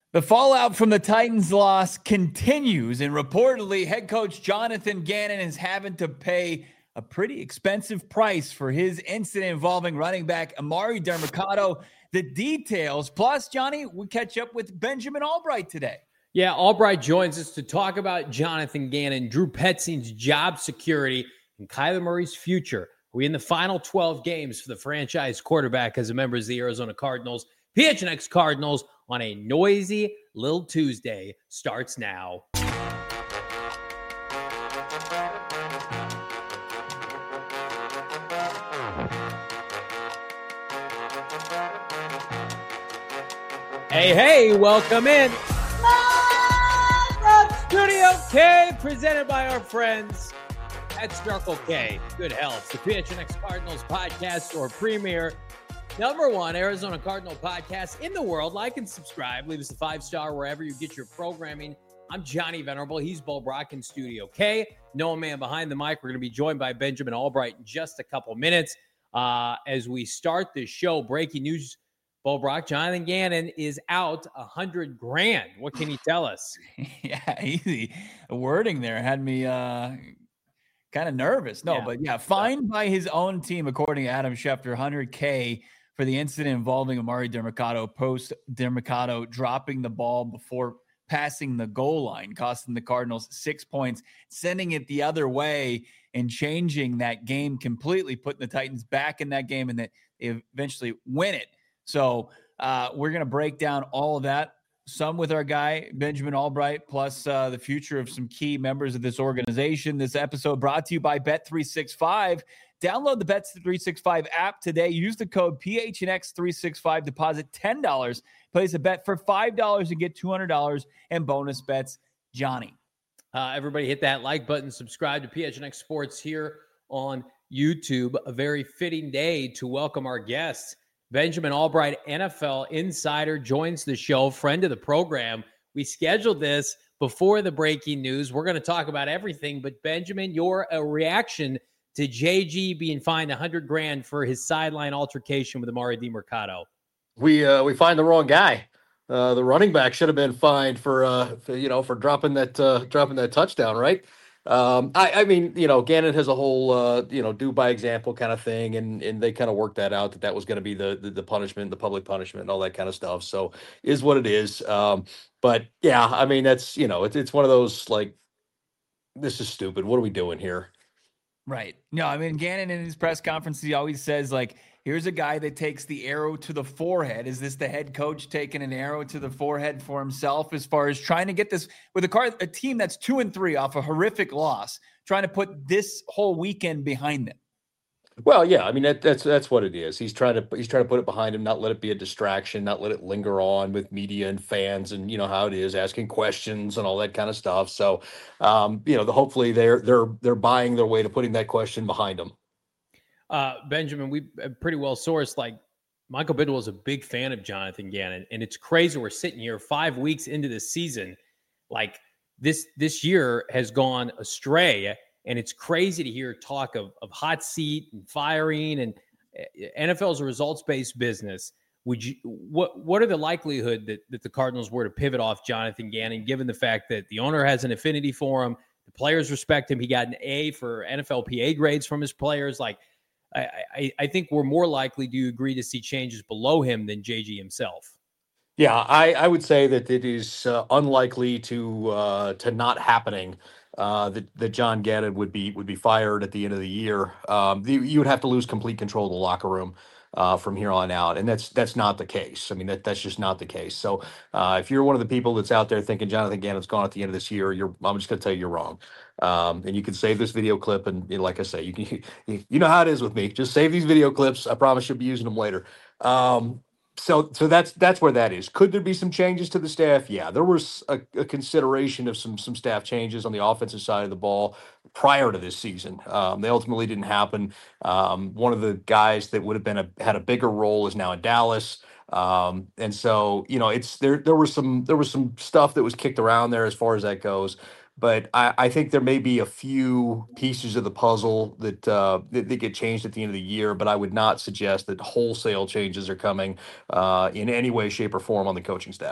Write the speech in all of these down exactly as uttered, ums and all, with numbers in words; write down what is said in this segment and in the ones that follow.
The fallout from the Titans' loss continues, and reportedly, head coach Jonathan Gannon is having to pay a pretty expensive price for his incident involving running back Emari Demercado. The details, plus, Johnny, we catch up with Benjamin Albright today. Yeah, Albright joins us to talk about Jonathan Gannon, Drew Petzing's job security, and Kyler Murray's future. Are we in the final twelve games for the franchise quarterback as a member of the Arizona Cardinals? P H N X Cardinals on a noisy little Tuesday starts now. Hey, hey, welcome in. Live from Studio K, presented by our friends at Circle K. Good health. The P H N X Cardinals podcast or premier number one Arizona Cardinal podcast in the world. Like and subscribe. Leave us a five-star wherever you get your programming. I'm Johnny Venerable. He's Bo Brock in Studio K. Noah Man behind the mic. We're going to be joined by Benjamin Albright in just a couple minutes. Uh, as we start this show, breaking news, Bo Brock, Jonathan Gannon is out a hundred grand. What can you tell us? Yeah, easy. The wording there had me uh, kind of nervous. No, yeah. but yeah, fined by his own team, according to Adam Schefter, one hundred K for the incident involving Emari Demercado, post Demercado dropping the ball before passing the goal line, costing the Cardinals six points, sending it the other way and changing that game completely, putting the Titans back in that game, and that they eventually win it. So uh, we're going to break down all of that, some with our guy, Benjamin Albright, plus uh, the future of some key members of this organization. This episode brought to you by Bet three sixty-five. Download the Bet three sixty-five app today. Use the code P H N X three sixty-five. Deposit ten dollars. Place a bet for five dollars and get two hundred dollars in bonus bets. Johnny. Uh, everybody hit that like button. Subscribe to P H N X Sports here on YouTube. A very fitting day to welcome our guests. Benjamin Albright, N F L insider, joins the show, friend of the program. We scheduled this before the breaking news. We're going to talk about everything, but Benjamin, your uh, reaction to J G being fined a hundred grand for his sideline altercation with Emari Demercado? We uh, we find the wrong guy. Uh, the running back should have been fined for, uh, for you know for dropping that uh, dropping that touchdown, right? Um, I, I mean, you know, Gannon has a whole, uh, you know, do by example kind of thing. And, and they kind of worked that out, that that was going to be the, the, the punishment, the public punishment and all that kind of stuff. So is what it is. Um, but yeah, I mean, that's, you know, it's, it's one of those, like, this is stupid. What are we doing here? Right. No, I mean, Gannon in his press conference, he always says, like, here's a guy that takes the arrow to the forehead. Is this the head coach taking an arrow to the forehead for himself as far as trying to get this with a car, a team that's two and three off a horrific loss, trying to put this whole weekend behind them? Well, yeah, I mean, that, that's that's what it is. He's trying to he's trying to put it behind him, not let it be a distraction, not let it linger on with media and fans, and you know how it is, asking questions and all that kind of stuff. So, um, you know, the, hopefully they're they're they're buying their way to putting that question behind them. Uh, Benjamin, we pretty well sourced, like, Michael Bidwell is a big fan of Jonathan Gannon, and it's crazy. We're sitting here five weeks into the season. Like, this this year has gone astray, and it's crazy to hear talk of, of hot seat and firing, and N F L is a results-based business. Would you what what are the likelihood that, that the Cardinals were to pivot off Jonathan Gannon, given the fact that the owner has an affinity for him, the players respect him, he got an A for N F L P A grades from his players? Like, I, I, I think we're more likely to agree to see changes below him than J G himself. Yeah, I, I would say that it is uh, unlikely to uh, to not happening. Uh, that, that John Gannon would be would be fired at the end of the year. Um, the, you would have to lose complete control of the locker room uh, from here on out, and that's that's not the case. I mean, that that's just not the case. So, uh, if you're one of the people that's out there thinking Jonathan Gannon's gone at the end of this year, you're I'm just going to tell you you're wrong. Um, and you can save this video clip, and you know, like I say, you can you, you know how it is with me. Just save these video clips. I promise you'll be using them later. Um, So, so that's that's where that is. Could there be some changes to the staff? Yeah, there was a, a consideration of some some staff changes on the offensive side of the ball prior to this season. Um, they ultimately didn't happen. Um, one of the guys that would have been a had a bigger role is now in Dallas, um, and so you know it's there. There was some there was some stuff that was kicked around there as far as that goes. But I, I think there may be a few pieces of the puzzle that, uh, that that get changed at the end of the year. But I would not suggest that wholesale changes are coming uh, in any way, shape, or form on the coaching staff.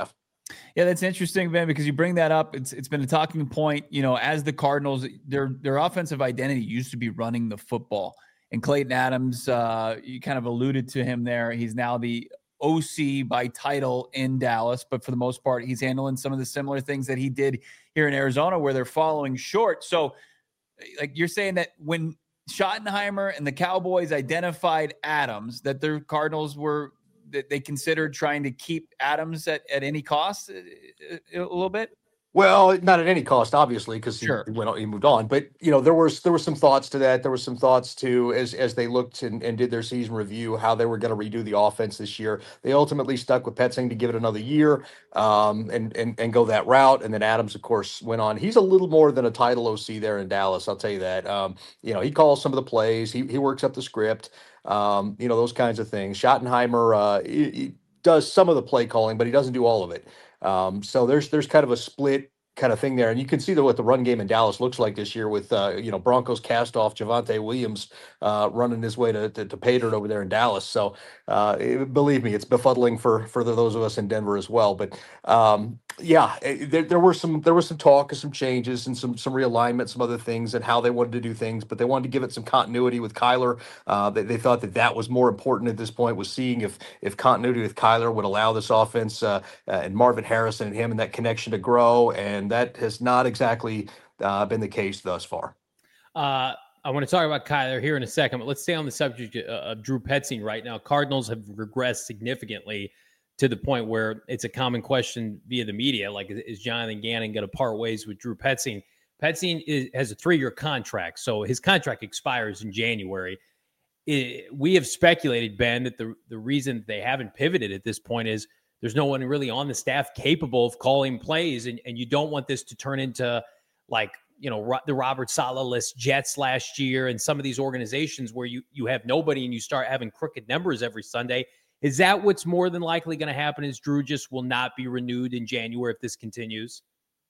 Yeah, that's interesting, Ben, because you bring that up. It's it's been a talking point. You know, as the Cardinals, their their offensive identity used to be running the football. And Clayton Adams, uh, you kind of alluded to him there. He's now the O C by title in Dallas, but for the most part, he's handling some of the similar things that he did here in Arizona, where they're following short. So, like you're saying that when Schottenheimer and the Cowboys identified Adams, that their Cardinals were that they considered trying to keep Adams at, at any cost a, a little bit? Well, not at any cost, obviously, because he Sure. went on, he moved on. But you know, there was there were some thoughts to that. There were some thoughts to as as they looked and, and did their season review, how they were going to redo the offense this year. They ultimately stuck with Petzing to give it another year, um, and and and go that route. And then Adams, of course, went on. He's a little more than a title O C there in Dallas. I'll tell you that. Um, you know, he calls some of the plays. He he works up the script. Um, you know, those kinds of things. Schottenheimer uh, he, he does some of the play calling, but he doesn't do all of it. Um, so there's there's kind of a split kind of thing there, and you can see that what the run game in Dallas looks like this year with uh, you know Broncos cast off Javonte Williams uh, running his way to, to to pay dirt over there in Dallas. So uh, it, believe me, it's befuddling for for the, those of us in Denver as well. But um, yeah, it, there, there were some there was some talk of some changes and some some realignment, some other things, and how they wanted to do things, but they wanted to give it some continuity with Kyler. Uh, they, they thought that that was more important at this point, was seeing if if continuity with Kyler would allow this offense uh, uh, and Marvin Harrison and him and that connection to grow, and that has not exactly uh, been the case thus far. Uh, I want to talk about Kyler here in a second, but let's stay on the subject of Drew Petzing right now. Cardinals have regressed significantly to the point where it's a common question via the media, like, is Jonathan Gannon going to part ways with Drew Petzing? Petzing is, has a three-year contract, so his contract expires in January. It, we have speculated, Ben, that the, the reason they haven't pivoted at this point is there's no one really on the staff capable of calling plays, and, and you don't want this to turn into, like, you know, the Robert Saleh-less Jets last year and some of these organizations where you you have nobody and you start having crooked numbers every Sunday. Is that what's more than likely going to happen, is Drew just will not be renewed in January if this continues?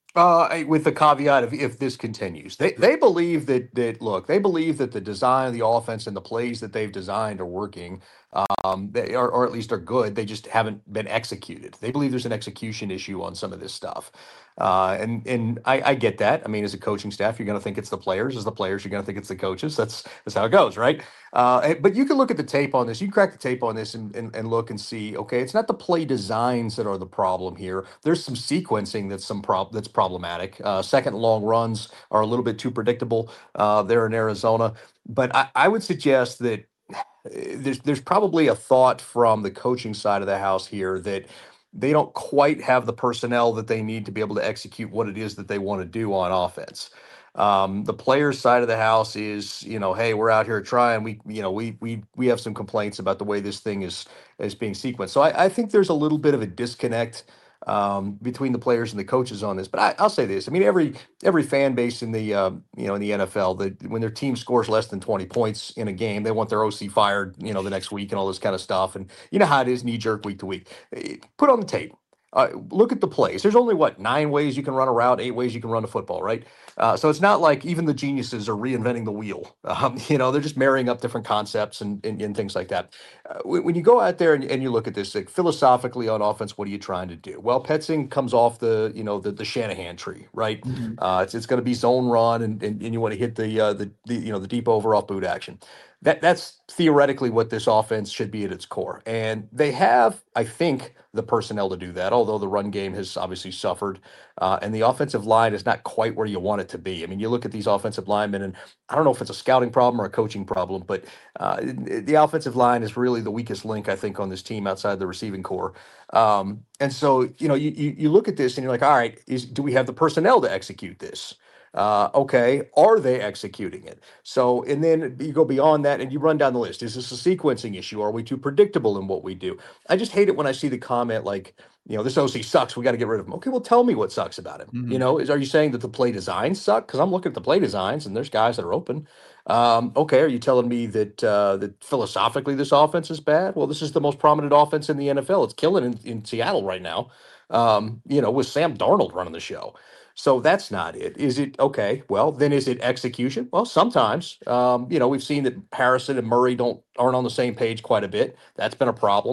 Uh, with the caveat of if this continues, they they believe that that look, they believe that the design of the offense and the plays that they've designed are working, um, they are, or at least are good. They just haven't been executed. They believe there's an execution issue on some of this stuff, uh, and and I, I get that. I mean, as a coaching staff, you're going to think it's the players. As the players, you're going to think it's the coaches. That's that's how it goes, right? Uh, but you can look at the tape on this. You can crack the tape on this and, and and look and see. Okay, it's not the play designs that are the problem here. There's some sequencing that's some prob that's problematic. Uh, second long runs are a little bit too predictable uh, there in Arizona. But I, I would suggest that there's there's probably a thought from the coaching side of the house here that they don't quite have the personnel that they need to be able to execute what it is that they want to do on offense. Um, the players' side of the house is, you know, hey, we're out here trying. We, you know, we we we have some complaints about the way this thing is is being sequenced. So I, I think there's a little bit of a disconnect um, between the players and the coaches on this. But I, I'll say this: I mean, every every fan base in the um, you know in the N F L, that when their team scores less than twenty points in a game, they want their O C fired, you know, the next week and all this kind of stuff. And you know how it is, knee jerk week to week. Put on the tape. Uh, look at the plays. There's only what nine ways you can run a route, eight ways you can run a football, right? Uh, so it's not like even the geniuses are reinventing the wheel. Um, you know, they're just marrying up different concepts and and, and things like that. Uh, when, when you go out there and, and you look at this, like, philosophically on offense, what are you trying to do? Well, Petzing comes off the you know the, the Shanahan tree, right? Mm-hmm. Uh, it's it's going to be zone run, and, and and you want to hit the uh, the the you know the deep over off boot action. That that's theoretically what this offense should be at its core, and they have, I think, the personnel to do that. Although the run game has obviously suffered, uh, and the offensive line is not quite where you want it to be. I mean, you look at these offensive linemen, and I don't know if it's a scouting problem or a coaching problem, but uh, the offensive line is really the weakest link, I think, on this team outside the receiving core. Um, and so, you know, you, you you look at this and you're like, all right, is do we have the personnel to execute this? Uh, okay, are they executing it? So, and then you go beyond that and you run down the list. Is this a sequencing issue? Are we too predictable in what we do? I just hate it when I see the comment like, you know, this O C sucks, we got to get rid of him. Okay, well, tell me what sucks about him. Mm-hmm. You know, is are you saying that the play designs suck? Because I'm looking at the play designs and there's guys that are open. Um, okay, are you telling me that uh, that philosophically this offense is bad? Well, this is the most prominent offense in the N F L. It's killing in, in Seattle right now. Um, you know, with Sam Darnold running the show. So that's not it. Is it okay? Well, then is it execution? Well, sometimes. Um, you know, we've seen that Harrison and Murray don't aren't on the same page quite a bit. That's been a problem.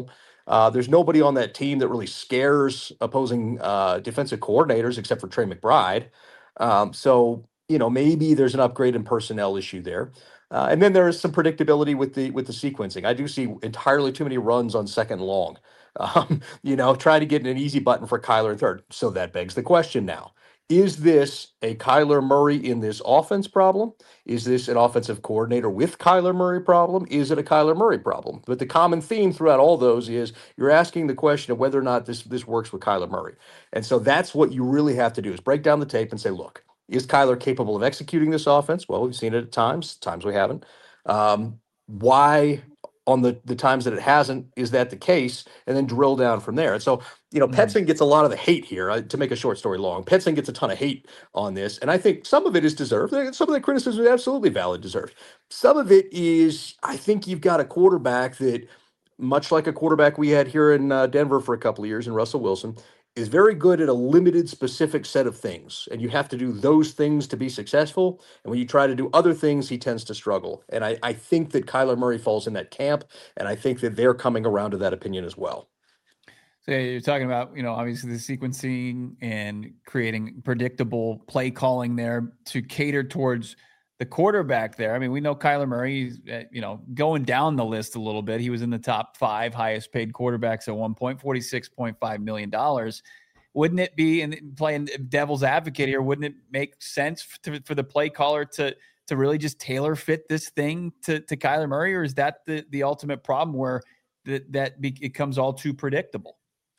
Uh, there's nobody on that team that really scares opposing uh, defensive coordinators except for Trey McBride. Um, so you know maybe there's an upgrade in personnel issue there. Uh, and then there is some predictability with the with the sequencing. I do see entirely too many runs on second and long. Um, you know, trying to get an easy button for Kyler in third. So that begs the question now. Is this a Kyler Murray in this offense problem? Is this an offensive coordinator with Kyler Murray problem? Is it a Kyler Murray problem? But the common theme throughout all those is you're asking the question of whether or not this this works with Kyler Murray. And so that's what you really have to do is break down the tape and say, look, is Kyler capable of executing this offense? Well, we've seen it at times, times we haven't. Um, why on the, the times that it hasn't, is that the case? And then drill down from there. And so, you know, Petzing gets a lot of the hate here. Uh, to make a short story long, Petzing gets a ton of hate on this. And I think some of it is deserved. Some of the criticism is absolutely valid, deserved. Some of it is, I think you've got a quarterback that, much like a quarterback we had here in uh, Denver for a couple of years in Russell Wilson, is very good at a limited specific set of things. And you have to do those things to be successful. And when you try to do other things, he tends to struggle. And I, I think that Kyler Murray falls in that camp. And I think that they're coming around to that opinion as well. So you're talking about, you know, obviously the sequencing and creating predictable play calling there to cater towards the quarterback there. I mean, we know Kyler Murray, you know, going down the list a little bit. He was in the top five highest paid quarterbacks at one point, forty-six point five million dollars. Wouldn't it be, and playing devil's advocate here, wouldn't it make sense to, for the play caller to to really just tailor fit this thing to, to Kyler Murray? Or is that the, the ultimate problem where that, that be, it becomes all too predictable?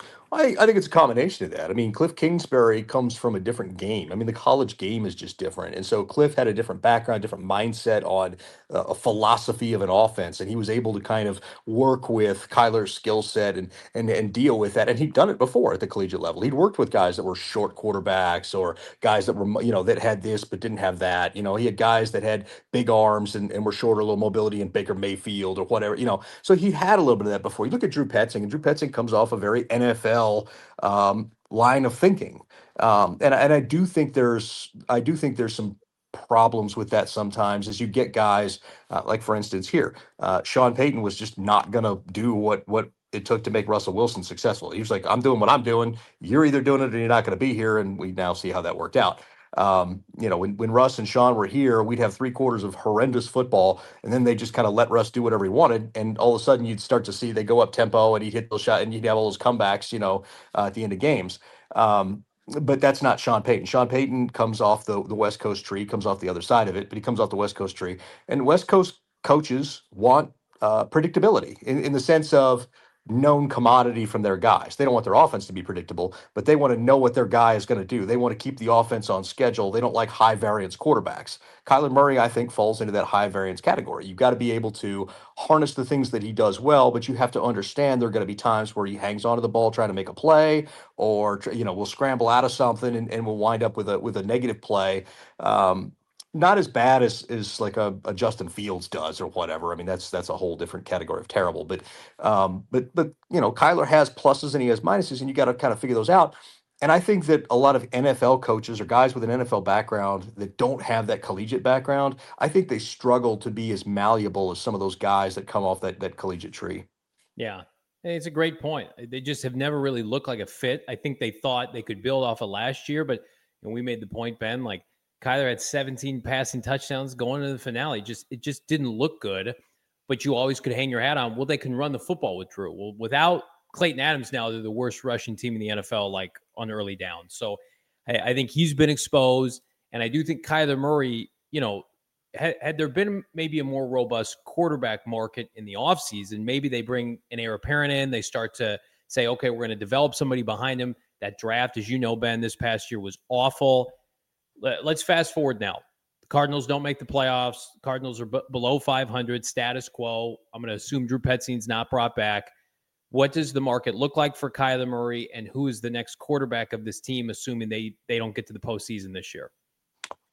I, I think it's a combination of that. I mean, Cliff Kingsbury comes from a different game. I mean, the college game is just different. And so Cliff had a different background, different mindset on uh, a philosophy of an offense. And he was able to kind of work with Kyler's skill set and, and, and deal with that. And he'd done it before at the collegiate level. He'd worked with guys that were short quarterbacks or guys that were, you know, that had this but didn't have that. You know, he had guys that had big arms and, and were shorter, a little mobility in Baker Mayfield or whatever, you know. So he had a little bit of that before. You look at Drew Petzing, and Drew Petzing comes off a very N F L um, line of thinking. Um, and, and I do think there's, I do think there's some problems with that sometimes as you get guys uh, like, for instance, here, uh, Sean Payton was just not going to do what, what it took to make Russell Wilson successful. He was like, I'm doing what I'm doing. You're either doing it or you're not going to be here. And we now see how that worked out. Um, you know, when, when Russ and Sean were here, we'd have three quarters of horrendous football, and then they just kind of let Russ do whatever he wanted. And all of a sudden you'd start to see they go up tempo and he'd hit those shots and you'd have all those comebacks, you know, uh, at the end of games. Um, but that's not Sean Payton. Sean Payton comes off the, the West Coast tree, comes off the other side of it, but he comes off the West Coast tree. And West Coast coaches want uh, predictability in, in the sense of known commodity from their guys. They don't want their offense to be predictable, but they want to know what their guy is going to do. They want to keep the offense on schedule. They don't like high variance quarterbacks. Kyler Murray, I think, falls into that high variance category. You've got to be able to harness the things that he does well, but you have to understand there are going to be times where he hangs onto the ball trying to make a play, or, you know, we'll scramble out of something and, and we'll wind up with a with a negative play. Um, Not as bad as as like a, a Justin Fields does or whatever. I mean, that's that's a whole different category of terrible. But um, but but you know, Kyler has pluses and he has minuses, and you got to kind of figure those out. And I think that a lot of N F L coaches or guys with an N F L background that don't have that collegiate background, I think they struggle to be as malleable as some of those guys that come off that that collegiate tree. Yeah. It's a great point. They just have never really looked like a fit. I think they thought they could build off of last year, but you know, we made the point, Ben, like Kyler had seventeen passing touchdowns going into the finale. Just it just didn't look good, but you always could hang your hat on, well, they can run the football with Drew. Well, without Clayton Adams now, they're the worst rushing team in the N F L, like on early downs. So I, I think he's been exposed, and I do think Kyler Murray, you know, had, had there been maybe a more robust quarterback market in the offseason, maybe they bring an heir apparent in, they start to say, okay, we're going to develop somebody behind him. That draft, as you know, Ben, this past year was awful. Let's fast forward now. The Cardinals don't make the playoffs. The Cardinals are b- below five hundred, status quo. I'm going to assume Drew Petzing's not brought back. What does the market look like for Kyler Murray, and who is the next quarterback of this team, assuming they, they don't get to the postseason this year?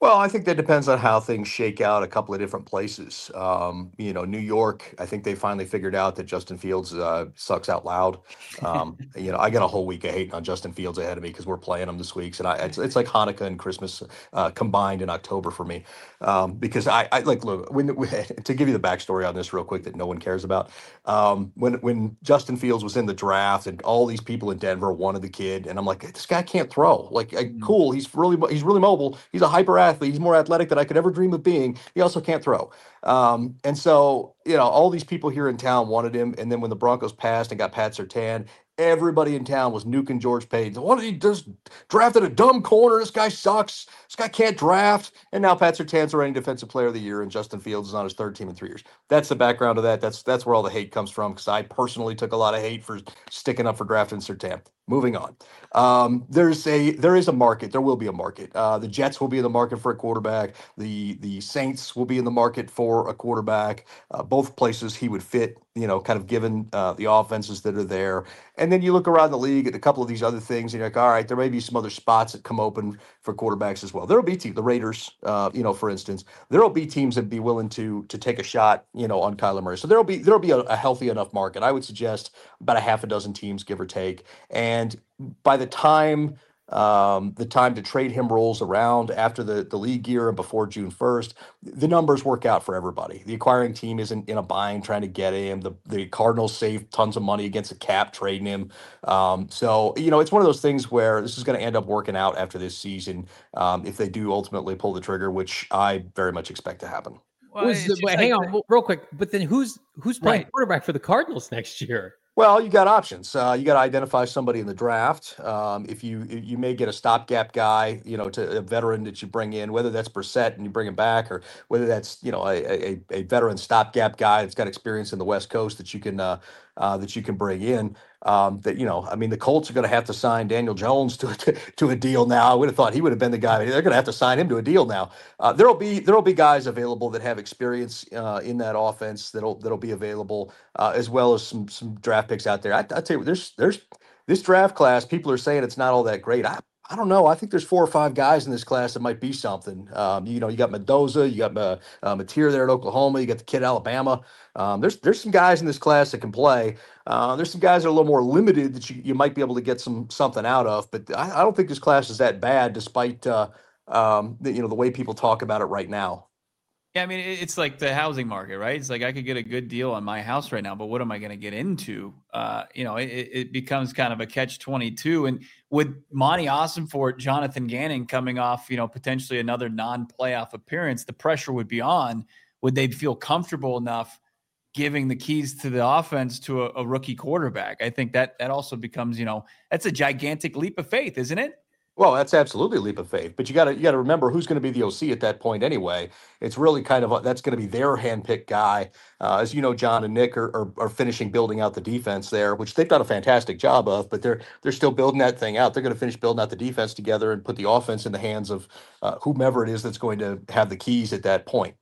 Well, I think that depends on how things shake out a couple of different places. Um, you know, New York, I think they finally figured out that Justin Fields uh, sucks out loud. Um, you know, I got a whole week of hating on Justin Fields ahead of me because we're playing him this week, and I it's, it's like Hanukkah and Christmas uh, combined in October for me. Um, because I, I like look when, when to give you the backstory on this real quick that no one cares about. Um, when when Justin Fields was in the draft and all these people in Denver wanted the kid, and I'm like, this guy can't throw. Like, I, Mm. cool, he's really mo- he's really mobile. He's a hyper athlete. He's more athletic than I could ever dream of being. He also can't throw. Um, and so you know, all these people here in town wanted him, and then when the Broncos passed and got Pat Surtain, everybody in town was nuking George Paton. What did he just drafted a dumb corner? This guy sucks. This guy can't draft. And now Pat Surtain's the reigning defensive player of the year, and Justin Fields is on his third team in three years. That's the background of that. That's that's where all the hate comes from, because I personally took a lot of hate for sticking up for drafting Surtain. Moving on. Um, there's a there is a market. There will be a market. Uh, the Jets will be in the market for a quarterback. The the Saints will be in the market for a quarterback. Uh, both places he would fit, you know, kind of given uh, the offenses that are there. And then you look around the league at a couple of these other things, and you're like, all right, there may be some other spots that come open for quarterbacks as well. There'll be teams, the Raiders, uh, you know, for instance, there'll be teams that be willing to to take a shot, you know, on Kyler Murray. So there'll be there'll be a, a healthy enough market. I would suggest about a half a dozen teams, give or take. And by the time um, the time to trade him rolls around after the, the league year and before June first, the numbers work out for everybody. The acquiring team isn't in a bind trying to get him. The, the Cardinals save tons of money against the cap trading him. Um, so, you know, it's one of those things where this is going to end up working out after this season um, if they do ultimately pull the trigger, which I very much expect to happen. Well, was the, wait, hang like on the, real quick. But then who's who's playing right. quarterback for the Cardinals next year? Well, you got options. Uh, you got to identify somebody in the draft. Um, if you you may get a stopgap guy, you know, to a veteran that you bring in, whether that's Brissett and you bring him back, or whether that's you know a a, a veteran stopgap guy that's got experience in the West Coast that you can uh, uh, that you can bring in. Um, that you know, I mean, the Colts are going to have to sign Daniel Jones to to, to a deal now. I would have thought he would have been the guy. They're going to have to sign him to a deal now. Uh, there'll be there'll be guys available that have experience uh, in that offense that'll that'll be available, uh, as well as some some draft picks out there. I, I tell you, there's there's this draft class. People are saying it's not all that great. I I don't know. I think there's four or five guys in this class that might be something. Um, you know, you got Mendoza, you got uh, uh, Mateer there at Oklahoma, you got the kid at Alabama. Um, there's there's some guys in this class that can play. Uh, there's some guys that are a little more limited that you, you might be able to get some something out of. But I, I don't think this class is that bad, despite uh, um, the, you know the way people talk about it right now. Yeah, I mean, it's like the housing market, right? It's like I could get a good deal on my house right now, but what am I going to get into? Uh, you know, it, it becomes kind of a catch twenty-two. And with Monty Ossenfort, Jonathan Gannon coming off, you know, potentially another non-playoff appearance, the pressure would be on. Would they feel comfortable enough giving the keys to the offense to a, a rookie quarterback? I think that that also becomes, you know, that's a gigantic leap of faith, isn't it? Well, that's absolutely a leap of faith, but you got to you got to remember who's going to be the O C at that point anyway. It's really kind of a, that's going to be their handpicked guy. Uh, as you know, John and Nick are, are are finishing building out the defense there, which they've done a fantastic job of. But they're they're still building that thing out. They're going to finish building out the defense together and put the offense in the hands of uh, whomever it is that's going to have the keys at that point.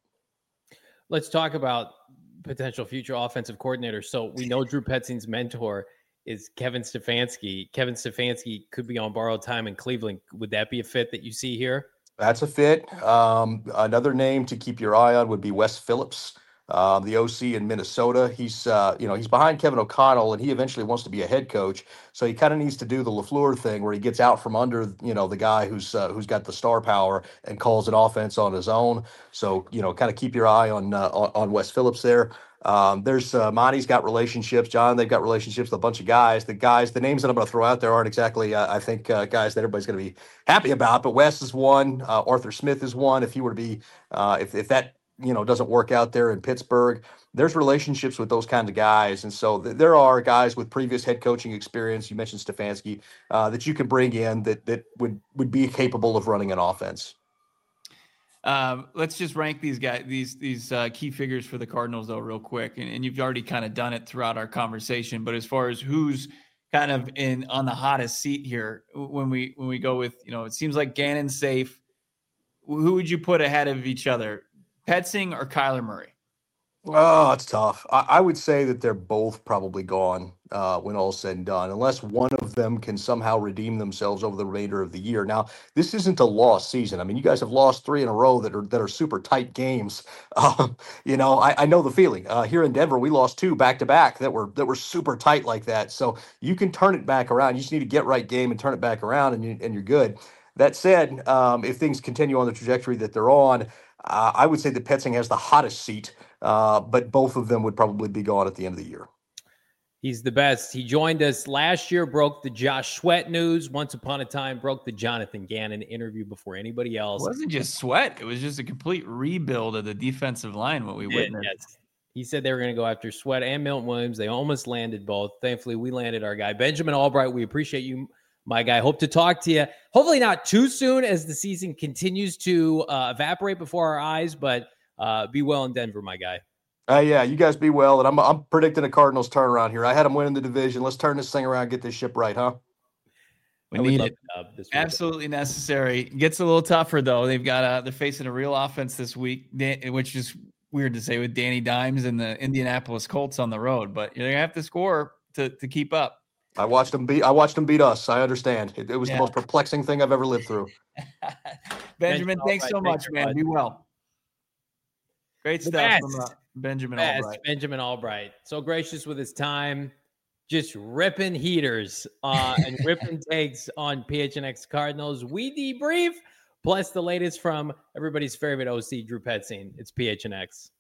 Let's talk about potential future offensive coordinators. So we know Drew Petzing's mentor is Kevin Stefanski. Kevin Stefanski could be on borrowed time in Cleveland. Would that be a fit that you see here? That's a fit. Um, another name to keep your eye on would be Wes Phillips, uh, the O C in Minnesota. He's uh, you know he's behind Kevin O'Connell, and he eventually wants to be a head coach. So he kind of needs to do the LaFleur thing, where he gets out from under you know the guy who's uh, who's got the star power and calls an offense on his own. So you know, kind of keep your eye on uh, on, on Wes Phillips there. Um, there's uh, Monty's got relationships. John, they've got relationships with a bunch of guys. The guys, the names that I'm going to throw out there aren't exactly, uh, I think, uh, guys that everybody's going to be happy about. But Wes is one. Uh, Arthur Smith is one. If he were to be, uh, if if that you know doesn't work out there in Pittsburgh, there's relationships with those kinds of guys, and so th- there are guys with previous head coaching experience. You mentioned Stefanski uh, that you can bring in that that would would be capable of running an offense. Um, let's just rank these guys, these these uh, key figures for the Cardinals, though, real quick. And, and you've already kind of done it throughout our conversation. But as far as who's kind of in on the hottest seat here, when we when we go with, you know, it seems like Gannon's safe. Who would you put ahead of each other, Petzing or Kyler Murray? Oh, it's tough. I, I would say that they're both probably gone uh, when all's said and done, unless one of them can somehow redeem themselves over the remainder of the year. Now, this isn't a lost season. I mean, you guys have lost three in a row that are that are super tight games. Um, you know, I, I know the feeling. Uh, here in Denver, we lost two back to back that were that were super tight like that. So you can turn it back around. You just need to get right game and turn it back around, and you, and you're good. That said, um, if things continue on the trajectory that they're on, uh, I would say that Petzing has the hottest seat, uh, but both of them would probably be gone at the end of the year. He's the best. He joined us last year, broke the Josh Sweat news. Once upon a time, broke the Jonathan Gannon interview before anybody else. It wasn't just Sweat. It was just a complete rebuild of the defensive line, what we Did, witnessed. yes. He said they were going to go after Sweat and Milton Williams. They almost landed both. Thankfully, we landed our guy. Benjamin Albright, we appreciate you, my guy. Hope to talk to you. Hopefully not too soon as the season continues to uh, evaporate before our eyes, but uh, be well in Denver, my guy. Uh, yeah, you guys be well, and I'm I'm predicting a Cardinals turnaround here. I had them winning the division. Let's turn this thing around, get this ship right, huh? We need it. Absolutely necessary. Gets a little tougher though. They've got uh, they're facing a real offense this week, which is weird to say with Danny Dimes and the Indianapolis Colts on the road, but you're gonna have to score to to keep up. I watched them beat. I watched them beat us. I understand. It, it was yeah. the most perplexing thing I've ever lived through. Benjamin, Benjamin thanks so much, man. Be well. Great the stuff best. from uh, Benjamin best. Albright. Benjamin Albright. So gracious with his time. Just ripping heaters uh, and ripping takes on P H N X Cardinals. We debrief, plus the latest from everybody's favorite O C, Drew Petzing. It's P H N X.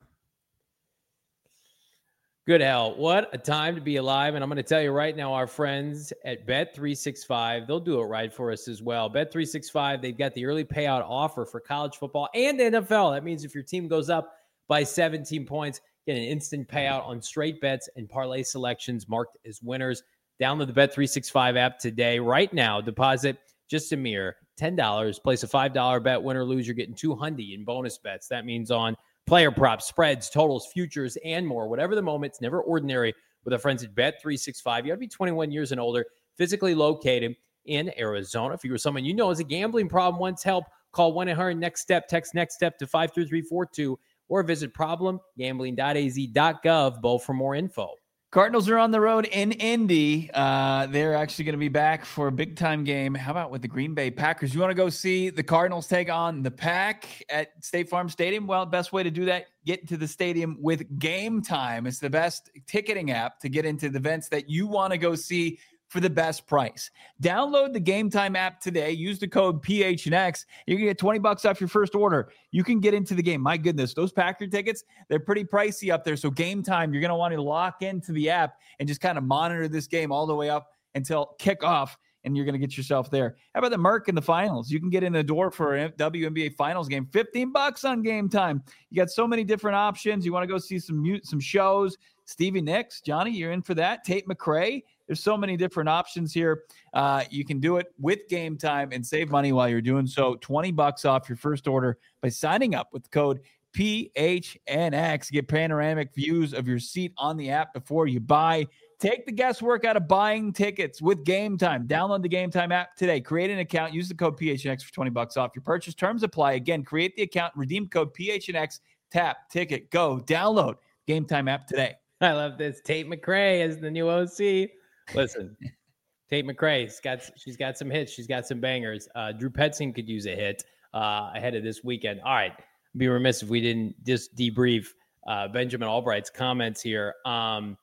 Good hell. What a time to be alive. And I'm going to tell you right now, our friends at Bet three sixty-five, they'll do it right for us as well. Bet three sixty-five, they've got the early payout offer for college football and N F L. That means if your team goes up by seventeen points, get an instant payout on straight bets and parlay selections marked as winners. Download the Bet three sixty-five app today. Right now, deposit just a mere ten dollars. Place a five dollar bet. Win or lose, you're getting two hundred dollars in bonus bets. That means on player props, spreads, totals, futures, and more. Whatever the moment, it's never ordinary with our friends at Bet three sixty-five. You got to be twenty-one years and older, physically located in Arizona. If you were someone you know has a gambling problem, wants help, call one eight hundred next step, text next step to five three three four two, or visit problem gambling dot a z dot gov, Bo, for more info. Cardinals are on the road in Indy. Uh, they're actually going to be back for a big-time game. How about with the Green Bay Packers? You want to go see the Cardinals take on the Pack at State Farm Stadium? Well, best way to do that, get to the stadium with Game Time. It's the best ticketing app to get into the events that you want to go see for the best price. Download the Game Time app today. Use the code P H N X. You're going to get twenty bucks off your first order. You can get into the game. My goodness, those Packer tickets, they're pretty pricey up there. So Game Time, you're going to want to lock into the app and just kind of monitor this game all the way up until kickoff, and you're going to get yourself there. How about the Merc in the finals? You can get in the door for a W N B A finals game. fifteen bucks on Game Time. You got so many different options. You want to go see some mute, some shows. Stevie Nicks, Johnny, you're in for that. Tate McRae. There's so many different options here. Uh, you can do it with Game Time and save money while you're doing so. twenty bucks off your first order by signing up with the code P H N X. Get panoramic views of your seat on the app before you buy. Take the guesswork out of buying tickets with Game Time. Download the Game Time app today. Create an account. Use the code P H N X for twenty bucks off your purchase. Terms apply. Again, create the account. Redeem code P H N X. Tap, ticket, go. Download Game Time app today. I love this. Tate McRae is the new O C. Listen, Tate McRae's got she's got some hits. She's got some bangers. Uh, Drew Petzing could use a hit uh, ahead of this weekend. All right. I'd be remiss if we didn't just debrief uh, Benjamin Albright's comments here. Um,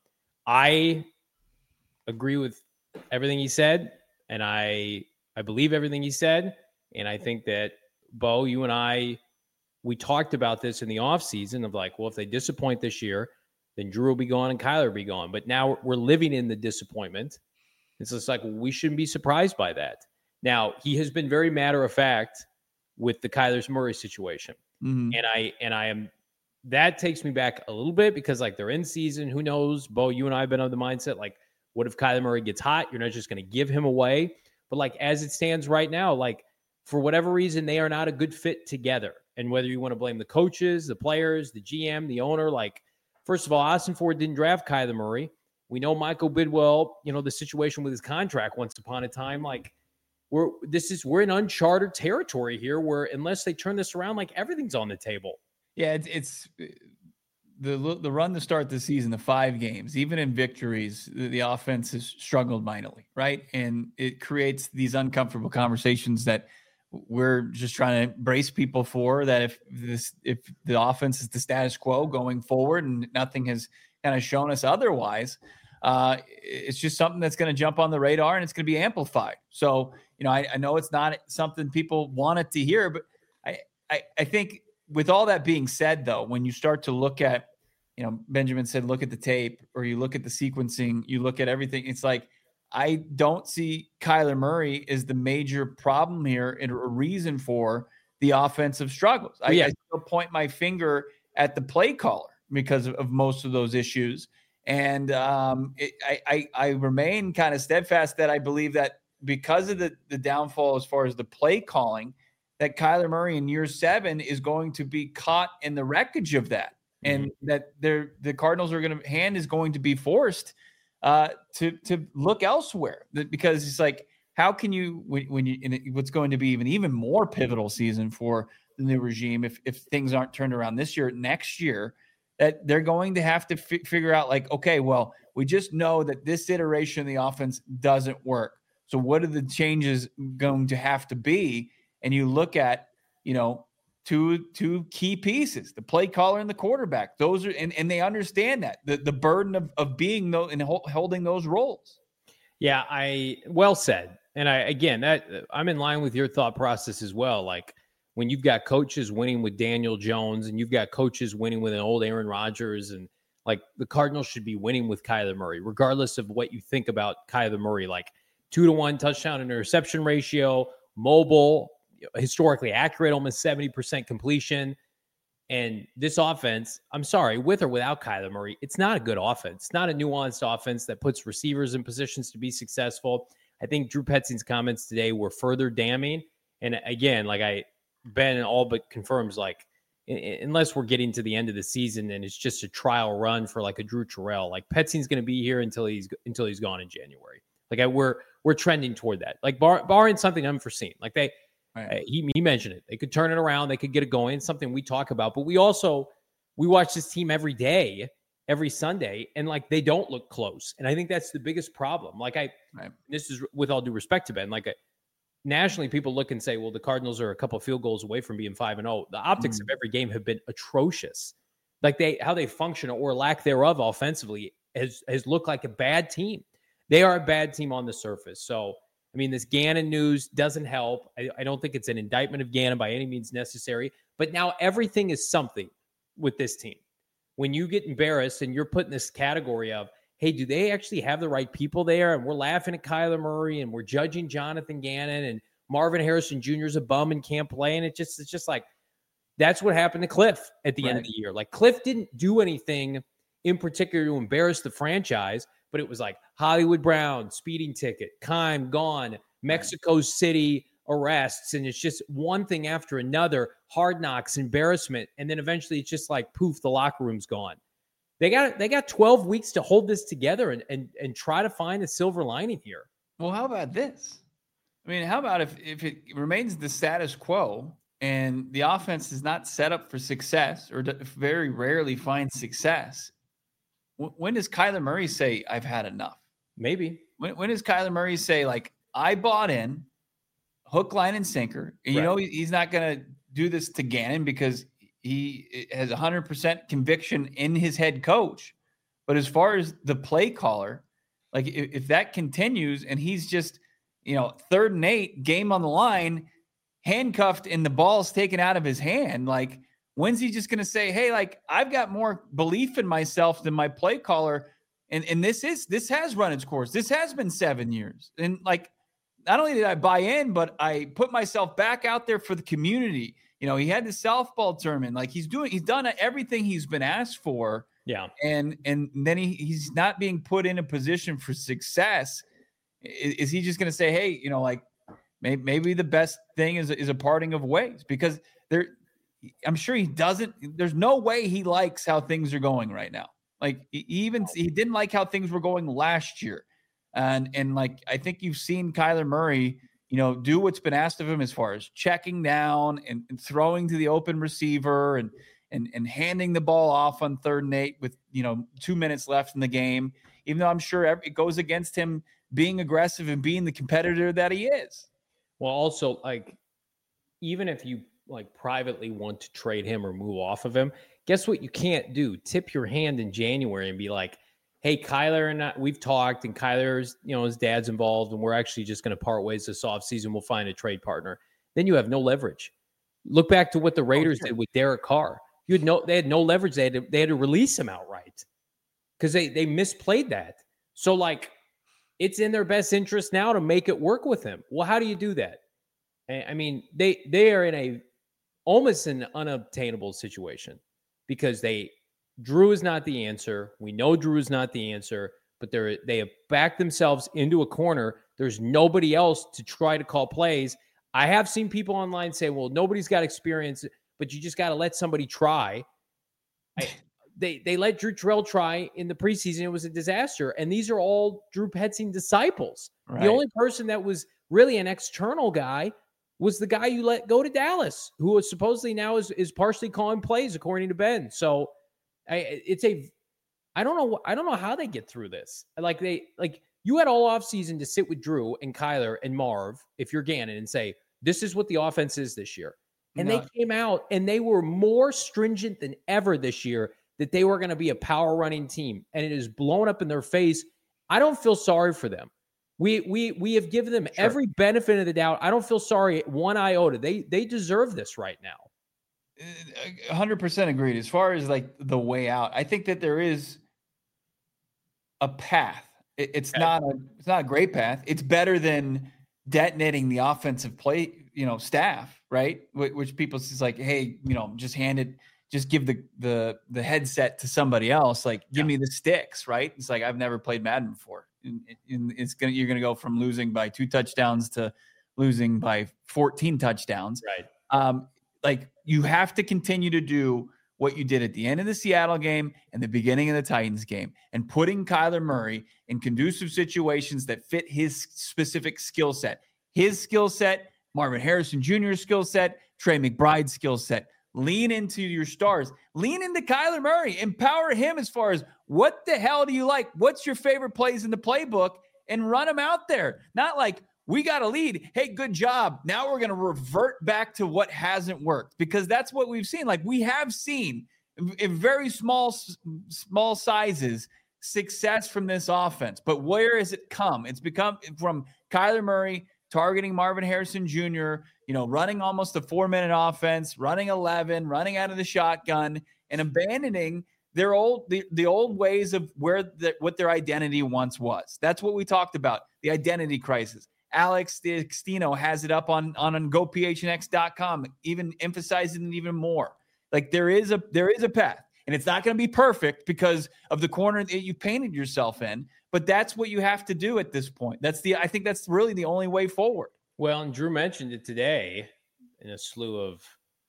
I agree with everything he said, and I I believe everything he said. And I think that, Bo, you and I, we talked about this in the offseason of like, well, if they disappoint this year, then Drew will be gone and Kyler will be gone. But now we're living in the disappointment. It's just like, well, we shouldn't be surprised by that. Now, he has been very matter of fact with the Kyler Murray situation. Mm-hmm. And I and I am that takes me back a little bit because like they're in season. Who knows? Bo, you and I have been of the mindset, like, what if Kyler Murray gets hot? You're not just going to give him away. But like as it stands right now, like for whatever reason, they are not a good fit together. And whether you want to blame the coaches, the players, the G M, the owner, like, first of all, Austin Ford didn't draft Kyler Murray. We know Michael Bidwell, you know, the situation with his contract once upon a time, like we're, this is, we're in uncharted territory here where unless they turn this around, like everything's on the table. Yeah. It's, it's the the run to start the season, the five games, even in victories, the, the offense has struggled mightily, right? And it creates these uncomfortable conversations that we're just trying to brace people for, that if this if the offense is the status quo going forward and nothing has kind of shown us otherwise, uh, it's just something that's going to jump on the radar and it's going to be amplified. So, you know, I, I know it's not something people wanted to hear, but I, I, I think with all that being said, though, when you start to look at, you know, Benjamin said, look at the tape, or you look at the sequencing, you look at everything, it's like, I don't see Kyler Murray as the major problem here and a reason for the offensive struggles. I, yeah. I still point my finger at the play caller because of, of most of those issues. And um, it, I, I, I remain kind of steadfast that I believe that because of the, the downfall as far as the play calling, that Kyler Murray in year seven is going to be caught in the wreckage of that. Mm-hmm. And that they're, the Cardinals are going to, hand is going to be forced uh, to to look elsewhere, because it's like, how can you, when, when you, in what's going to be even even more pivotal season for the new regime, if if things aren't turned around this year, next year, that they're going to have to f- figure out, like, okay, well, we just know that this iteration of the offense doesn't work. So what are the changes going to have to be? And you look at, you know, two two key pieces, the play caller and the quarterback. Those are, and, and they understand that the, the burden of, of being those and holding those roles. Yeah, I well said. And I, again, that I'm in line with your thought process as well. Like, when you've got coaches winning with Daniel Jones and you've got coaches winning with an old Aaron Rodgers, and like, the Cardinals should be winning with Kyler Murray, regardless of what you think about Kyler Murray. Like, two to one touchdown and interception ratio, mobile, historically accurate, almost seventy percent completion. And this offense, I'm sorry, with or without Kyler Murray, it's not a good offense. It's not a nuanced offense that puts receivers in positions to be successful. I think Drew Petzing's comments today were further damning. And again, like I, Ben all but confirms, like, unless we're getting to the end of the season and it's just a trial run for like a Drew Terrell, like, Petzing's going to be here until he's until he's gone in January. Like, I, we're we're trending toward that. Like, bar, barring something unforeseen, like they. Right. He, he mentioned it. They could turn it around. They could get it going. It's something we talk about. But we also, we watch this team every day, every Sunday, and like, they don't look close. And I think that's the biggest problem. Like, I, right. this is with all due respect to Ben, like, a, nationally, people look and say, well, the Cardinals are a couple of field goals away from being five and oh. The optics mm. of every game have been atrocious. Like, they, how they function or lack thereof offensively has, has looked like a bad team. They are a bad team on the surface. So, I mean, this Gannon news doesn't help. I, I don't think it's an indictment of Gannon by any means necessary. But now everything is something with this team. When you get embarrassed and you're put in this category of, hey, do they actually have the right people there? And we're laughing at Kyler Murray and we're judging Jonathan Gannon, and Marvin Harrison Junior is a bum and can't play. And it just it's just like, that's what happened to Cliff at the right. end of the year. Like, Cliff didn't do anything in particular to embarrass the franchise. But it was like Hollywood Brown, speeding ticket, Keim gone, Mexico City arrests, and it's just one thing after another, Hard Knocks, embarrassment, and then eventually it's just like, poof, the locker room's gone. They got they got twelve weeks to hold this together and and and try to find a silver lining here. Well, how about this? I mean, how about if if it remains the status quo and the offense is not set up for success, or very rarely finds success? When does Kyler Murray say, I've had enough? Maybe. When, when does Kyler Murray say, like, I bought in, hook, line, and sinker? And you right. know he's not going to do this to Gannon because he has one hundred percent conviction in his head coach. But as far as the play caller, like, if, if that continues and he's just, you know, third and eight, game on the line, handcuffed and the ball's taken out of his hand, like, when's he just going to say, hey, like, I've got more belief in myself than my play caller. And, and this is, this has run its course. This has been seven years. And like, not only did I buy in, but I put myself back out there for the community. You know, he had the softball tournament. Like, he's doing, he's done everything he's been asked for. Yeah. And, and then he, he's not being put in a position for success. Is, is he just going to say, hey, you know, like, maybe, maybe the best thing is, is a parting of ways? Because there, I'm sure he doesn't. There's no way he likes how things are going right now. Like, he even he didn't like how things were going last year, and and like, I think you've seen Kyler Murray, you know, do what's been asked of him as far as checking down and, and throwing to the open receiver, and and and handing the ball off on third and eight with, you know, two minutes left in the game, even though I'm sure it goes against him being aggressive and being the competitor that he is. Well, also, like, even if you like privately want to trade him or move off of him, guess what you can't do? Tip your hand in January and be like, hey, Kyler and I, we've talked, and Kyler's, you know, his dad's involved, and we're actually just going to part ways this offseason. We'll find a trade partner. Then you have no leverage. Look back to what the Raiders oh, sure. did with Derek Carr. You had no, they had no leverage. They had to, they had to release him outright because they they misplayed that. So, like, it's in their best interest now to make it work with him. Well, how do you do that? I mean, they they are in a almost an unobtainable situation because they Drew is not the answer. We know Drew is not the answer, but they're they have backed themselves into a corner. There's nobody else to try to call plays. I have seen people online say, well, nobody's got experience, but you just got to let somebody try. I, they they let Drew Terrell try in the preseason. It was a disaster. And these are all Drew Petzing disciples. Right. The only person that was really an external guy was the guy you let go to Dallas, who is supposedly now is, is partially calling plays, according to Ben. So I, it's a, I don't know. I don't know how they get through this. Like they, like you had all offseason to sit with Drew and Kyler and Marv, if you're Gannon, and say, this is what the offense is this year. And no. they came out and they were more stringent than ever this year that they were going to be a power running team. And it is blown up in their face. I don't feel sorry for them. We we we have given them sure. every benefit of the doubt. I don't feel sorry one iota. They they deserve this right now. one hundred percent agreed. As far as like the way out, I think that there is a path. It, it's okay. not a it's not a great path. It's better than detonating the offensive play, you know, staff, right? Which, which people is like, hey, you know, just hand it, just give the the the headset to somebody else. Like, give yeah. me the sticks, right? It's like I've never played Madden before. And it's gonna you're gonna go from losing by two touchdowns to losing by fourteen touchdowns. Right. Um, like you have to continue to do what you did at the end of the Seattle game and the beginning of the Titans game, and putting Kyler Murray in conducive situations that fit his specific skill set. His skill set, Marvin Harrison Junior's skill set, Trey McBride's skill set. Lean into your stars. Lean into Kyler Murray. Empower him as far as what the hell do you like? What's your favorite plays in the playbook? And run them out there. Not like, we got a lead. Hey, good job. Now we're going to revert back to what hasn't worked, because that's what we've seen. Like we have seen in very small, small sizes success from this offense. But where has it come? It's become from Kyler Murray targeting Marvin Harrison Junior, you know, running almost a four-minute offense, running eleven, running out of the shotgun, and abandoning their old the, the old ways of where the, what their identity once was. That's what we talked about, the identity crisis. Alex Dextino has it up on, on, on go p h n x dot com, even emphasizing it even more. Like there is a there is a path, and it's not going to be perfect because of the corner that you painted yourself in. But that's what you have to do at this point. That's the I think that's really the only way forward. Well, and Drew mentioned it today in a slew of,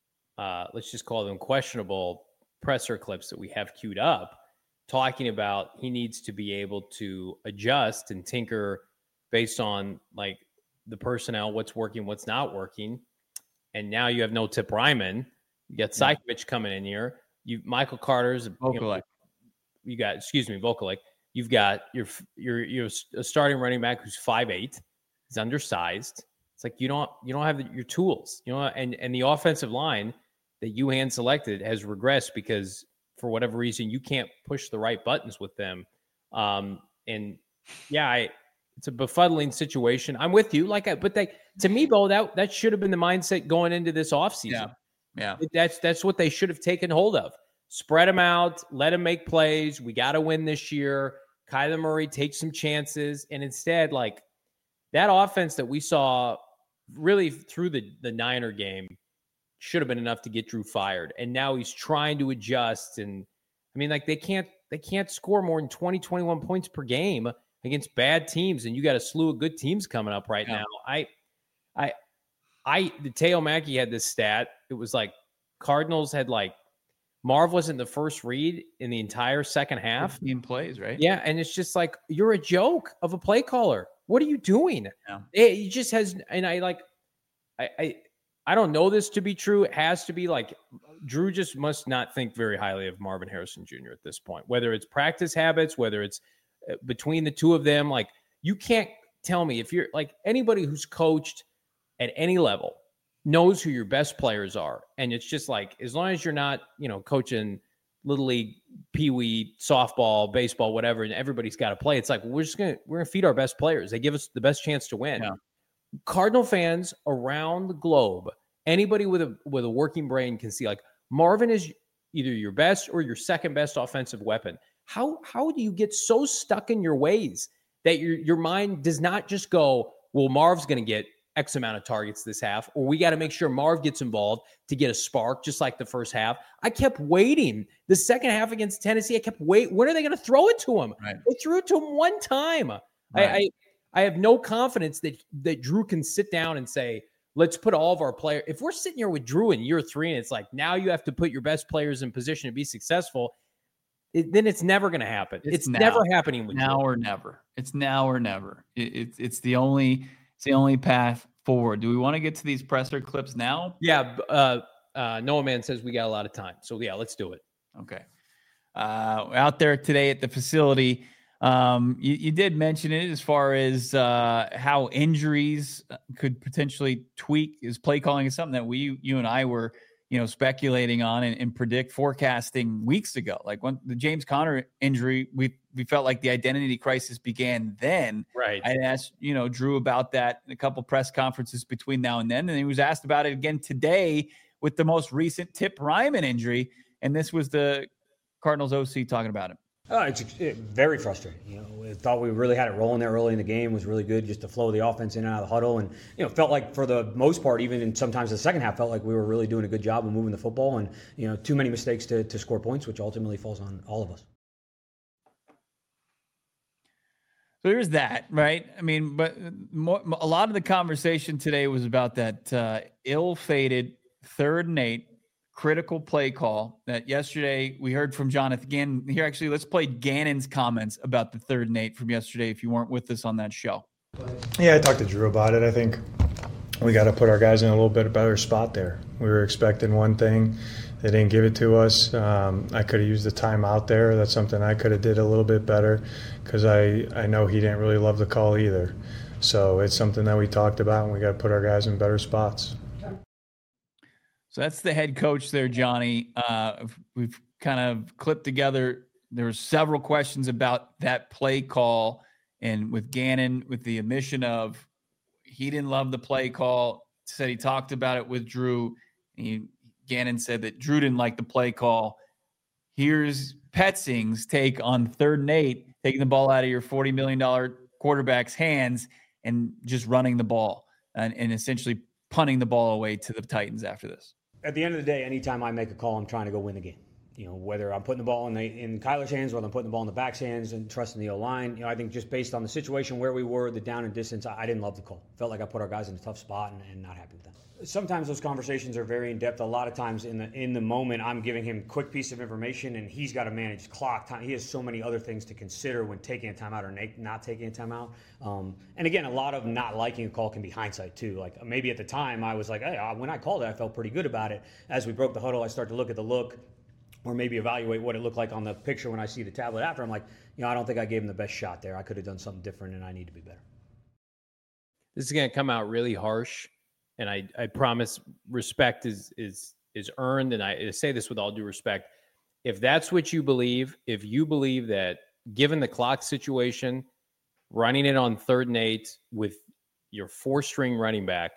uh, let's just call them questionable presser clips that we have queued up, talking about he needs to be able to adjust and tinker based on like the personnel, what's working, what's not working. And now you have no Tip Ryman. You got Sykovich coming in here. You Michael Carter's. You, know, you got, excuse me, Vokalek. You've got your your your a starting running back who's five eight. He's undersized. It's like you don't you don't have the, your tools, you know, and and the offensive line that you hand selected has regressed because for whatever reason you can't push the right buttons with them. Um, and yeah, I, it's a befuddling situation. I'm with you, like, I, but they to me, Bo, that that should have been the mindset going into this offseason. Yeah, yeah, that's that's what they should have taken hold of. Spread them out, let them make plays. We got to win this year. Kyler Murray takes some chances. And instead, like that offense that we saw really through the, the Niner game should have been enough to get Drew fired. And now he's trying to adjust. And I mean, like they can't, they can't score more than twenty, twenty-one points per game against bad teams. And you got a slew of good teams coming up right yeah. now. I, I, I, the Teo Mackey had this stat. It was like Cardinals had like, Marv wasn't the first read in the entire second half. fifteen plays, right? Yeah, and it's just like, you're a joke of a play caller. What are you doing? Yeah. It, it just has, and I like, I, I I don't know this to be true. It has to be like Drew just must not think very highly of Marvin Harrison Junior at this point, whether it's practice habits, whether it's between the two of them. Like, you can't tell me if you're like anybody who's coached at any level knows who your best players are. And it's just like, as long as you're not, you know, coaching little league, peewee, softball, baseball, whatever, and everybody's got to play. It's like, we're just going to, we're going to feed our best players. They give us the best chance to win. Yeah. Cardinal fans around the globe, anybody with a, with a working brain can see like Marvin is either your best or your second best offensive weapon. How, how do you get so stuck in your ways that your, your mind does not just go, well, Marv's going to get X amount of targets this half, or we got to make sure Marv gets involved to get a spark, just like the first half. I kept waiting. The second half against Tennessee, I kept waiting. When are they going to throw it to him? Right. They threw it to him one time. Right. I, I I have no confidence that that Drew can sit down and say, let's put all of our players. If we're sitting here with Drew in year three, and it's like, now you have to put your best players in position to be successful, it, then it's never going to happen. It's, it's never happening with now Drew. or never. It's now or never. It, it's it's the only it's the only path forward. Do we want to get to these presser clips now? Yeah. Uh, uh, Noah Man says we got a lot of time. So, yeah, let's do it. Okay. Uh, out there today at the facility, um, you, you did mention it as far as uh, how injuries could potentially tweak his play calling is something that we, you and I were, you know, speculating on and, and predict forecasting weeks ago. Like when the James Conner injury, we we felt like the identity crisis began then. Right. I asked, you know, Drew about that in a couple press conferences between now and then. And he was asked about it again today with the most recent Tip Ryman injury. And this was the Cardinals O C talking about him. Oh, it's it, very frustrating. You know, we thought we really had it rolling there early in the game. It was really good just to flow the offense in and out of the huddle. And, you know, felt like for the most part, even in sometimes the second half, felt like we were really doing a good job of moving the football and, you know, too many mistakes to, to score points, which ultimately falls on all of us. So there's that, right? I mean, but more, a lot of the conversation today was about that uh, ill-fated third and eight critical play call that yesterday we heard from Jonathan Gannon. Here, actually, let's play Gannon's comments about the third and eight from yesterday if you weren't with us on that show. Yeah, I talked to Drew about it. I think we got to put our guys in a little bit better spot there. We were expecting one thing. They didn't give it to us. Um, I could have used the time out there. That's something I could have did a little bit better because I, I know he didn't really love the call either. So it's something that we talked about, and we got to put our guys in better spots. So that's the head coach there, Johnny. Uh, we've kind of clipped together. There were several questions about that play call, and with Gannon, with the admission of he didn't love the play call, said he talked about it with Drew. He, Gannon said that Drew didn't like the play call. Here's Petzing's take on third and eight, taking the ball out of your forty million dollars quarterback's hands and just running the ball and, and essentially punting the ball away to the Titans after this. At the end of the day, anytime I make a call, I'm trying to go win the game. You know, whether I'm putting the ball in the in Kyler's hands, whether I'm putting the ball in the back's hands and trusting the O-line. You know, I think just based on the situation where we were, the down and distance, I, I didn't love the call. Felt like I put our guys in a tough spot and, and not happy with that. Sometimes those conversations are very in depth. A lot of times in the in the moment, I'm giving him a quick piece of information, and he's got to manage clock time. He has so many other things to consider when taking a timeout or not taking a timeout. Um, and again, a lot of not liking a call can be hindsight too. Like maybe at the time I was like, hey, when I called it, I felt pretty good about it. As we broke the huddle, I start to look at the look, or maybe evaluate what it looked like on the picture when I see the tablet after. I'm like, you know, I don't think I gave him the best shot there. I could have done something different, and I need to be better. This is going to come out really harsh. And I, I promise respect is is is earned. And I say this with all due respect. If that's what you believe, if you believe that given the clock situation, running it on third and eight with your four-string running back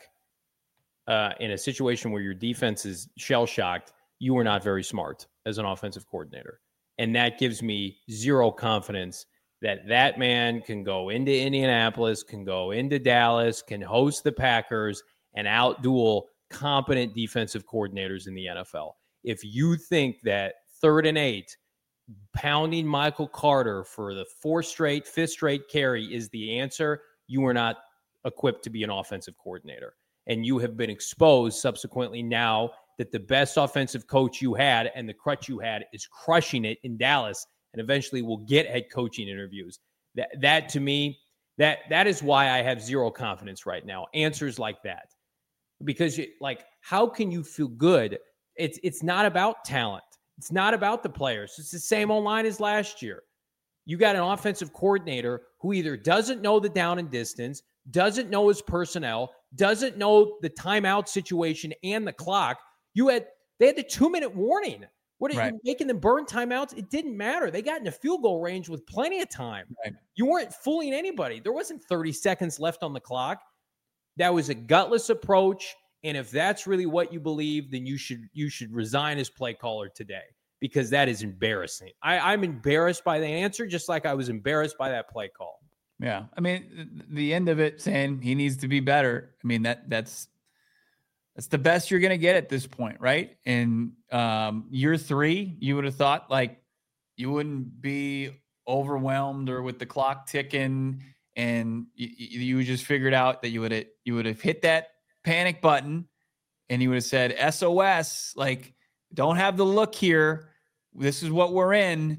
uh, in a situation where your defense is shell-shocked, you are not very smart as an offensive coordinator. And that gives me zero confidence that that man can go into Indianapolis, can go into Dallas, can host the Packers, and outduel competent defensive coordinators in the N F L. If you think that third and eight, pounding Michael Carter for the fourth straight, fifth straight carry is the answer, you are not equipped to be an offensive coordinator. And you have been exposed subsequently now that the best offensive coach you had and the crutch you had is crushing it in Dallas and eventually will get head coaching interviews. That, that to me, that that is why I have zero confidence right now. Answers like that. because you, like, how can you feel good? It's it's not about talent. It's not about the players. It's the same old line as last year. You got an offensive coordinator who either doesn't know the down and distance, doesn't know his personnel, doesn't know the timeout situation and the clock. You had they had the two-minute warning. What are right. you making them burn timeouts? It didn't matter. They got in a field goal range with plenty of time. Right. You weren't fooling anybody. There wasn't thirty seconds left on the clock. That was a gutless approach. And if that's really what you believe, then you should you should resign as play caller today, because that is embarrassing. I, I'm embarrassed by the answer, just like I was embarrassed by that play call. Yeah. I mean, the end of it saying he needs to be better. I mean, that that's that's the best you're going to get at this point, right? In um, year three, you would have thought like you wouldn't be overwhelmed or with the clock ticking, and you, you just figured out that you would have you would have hit that panic button and you would have said S O S, like, don't have the look here. This is what we're in.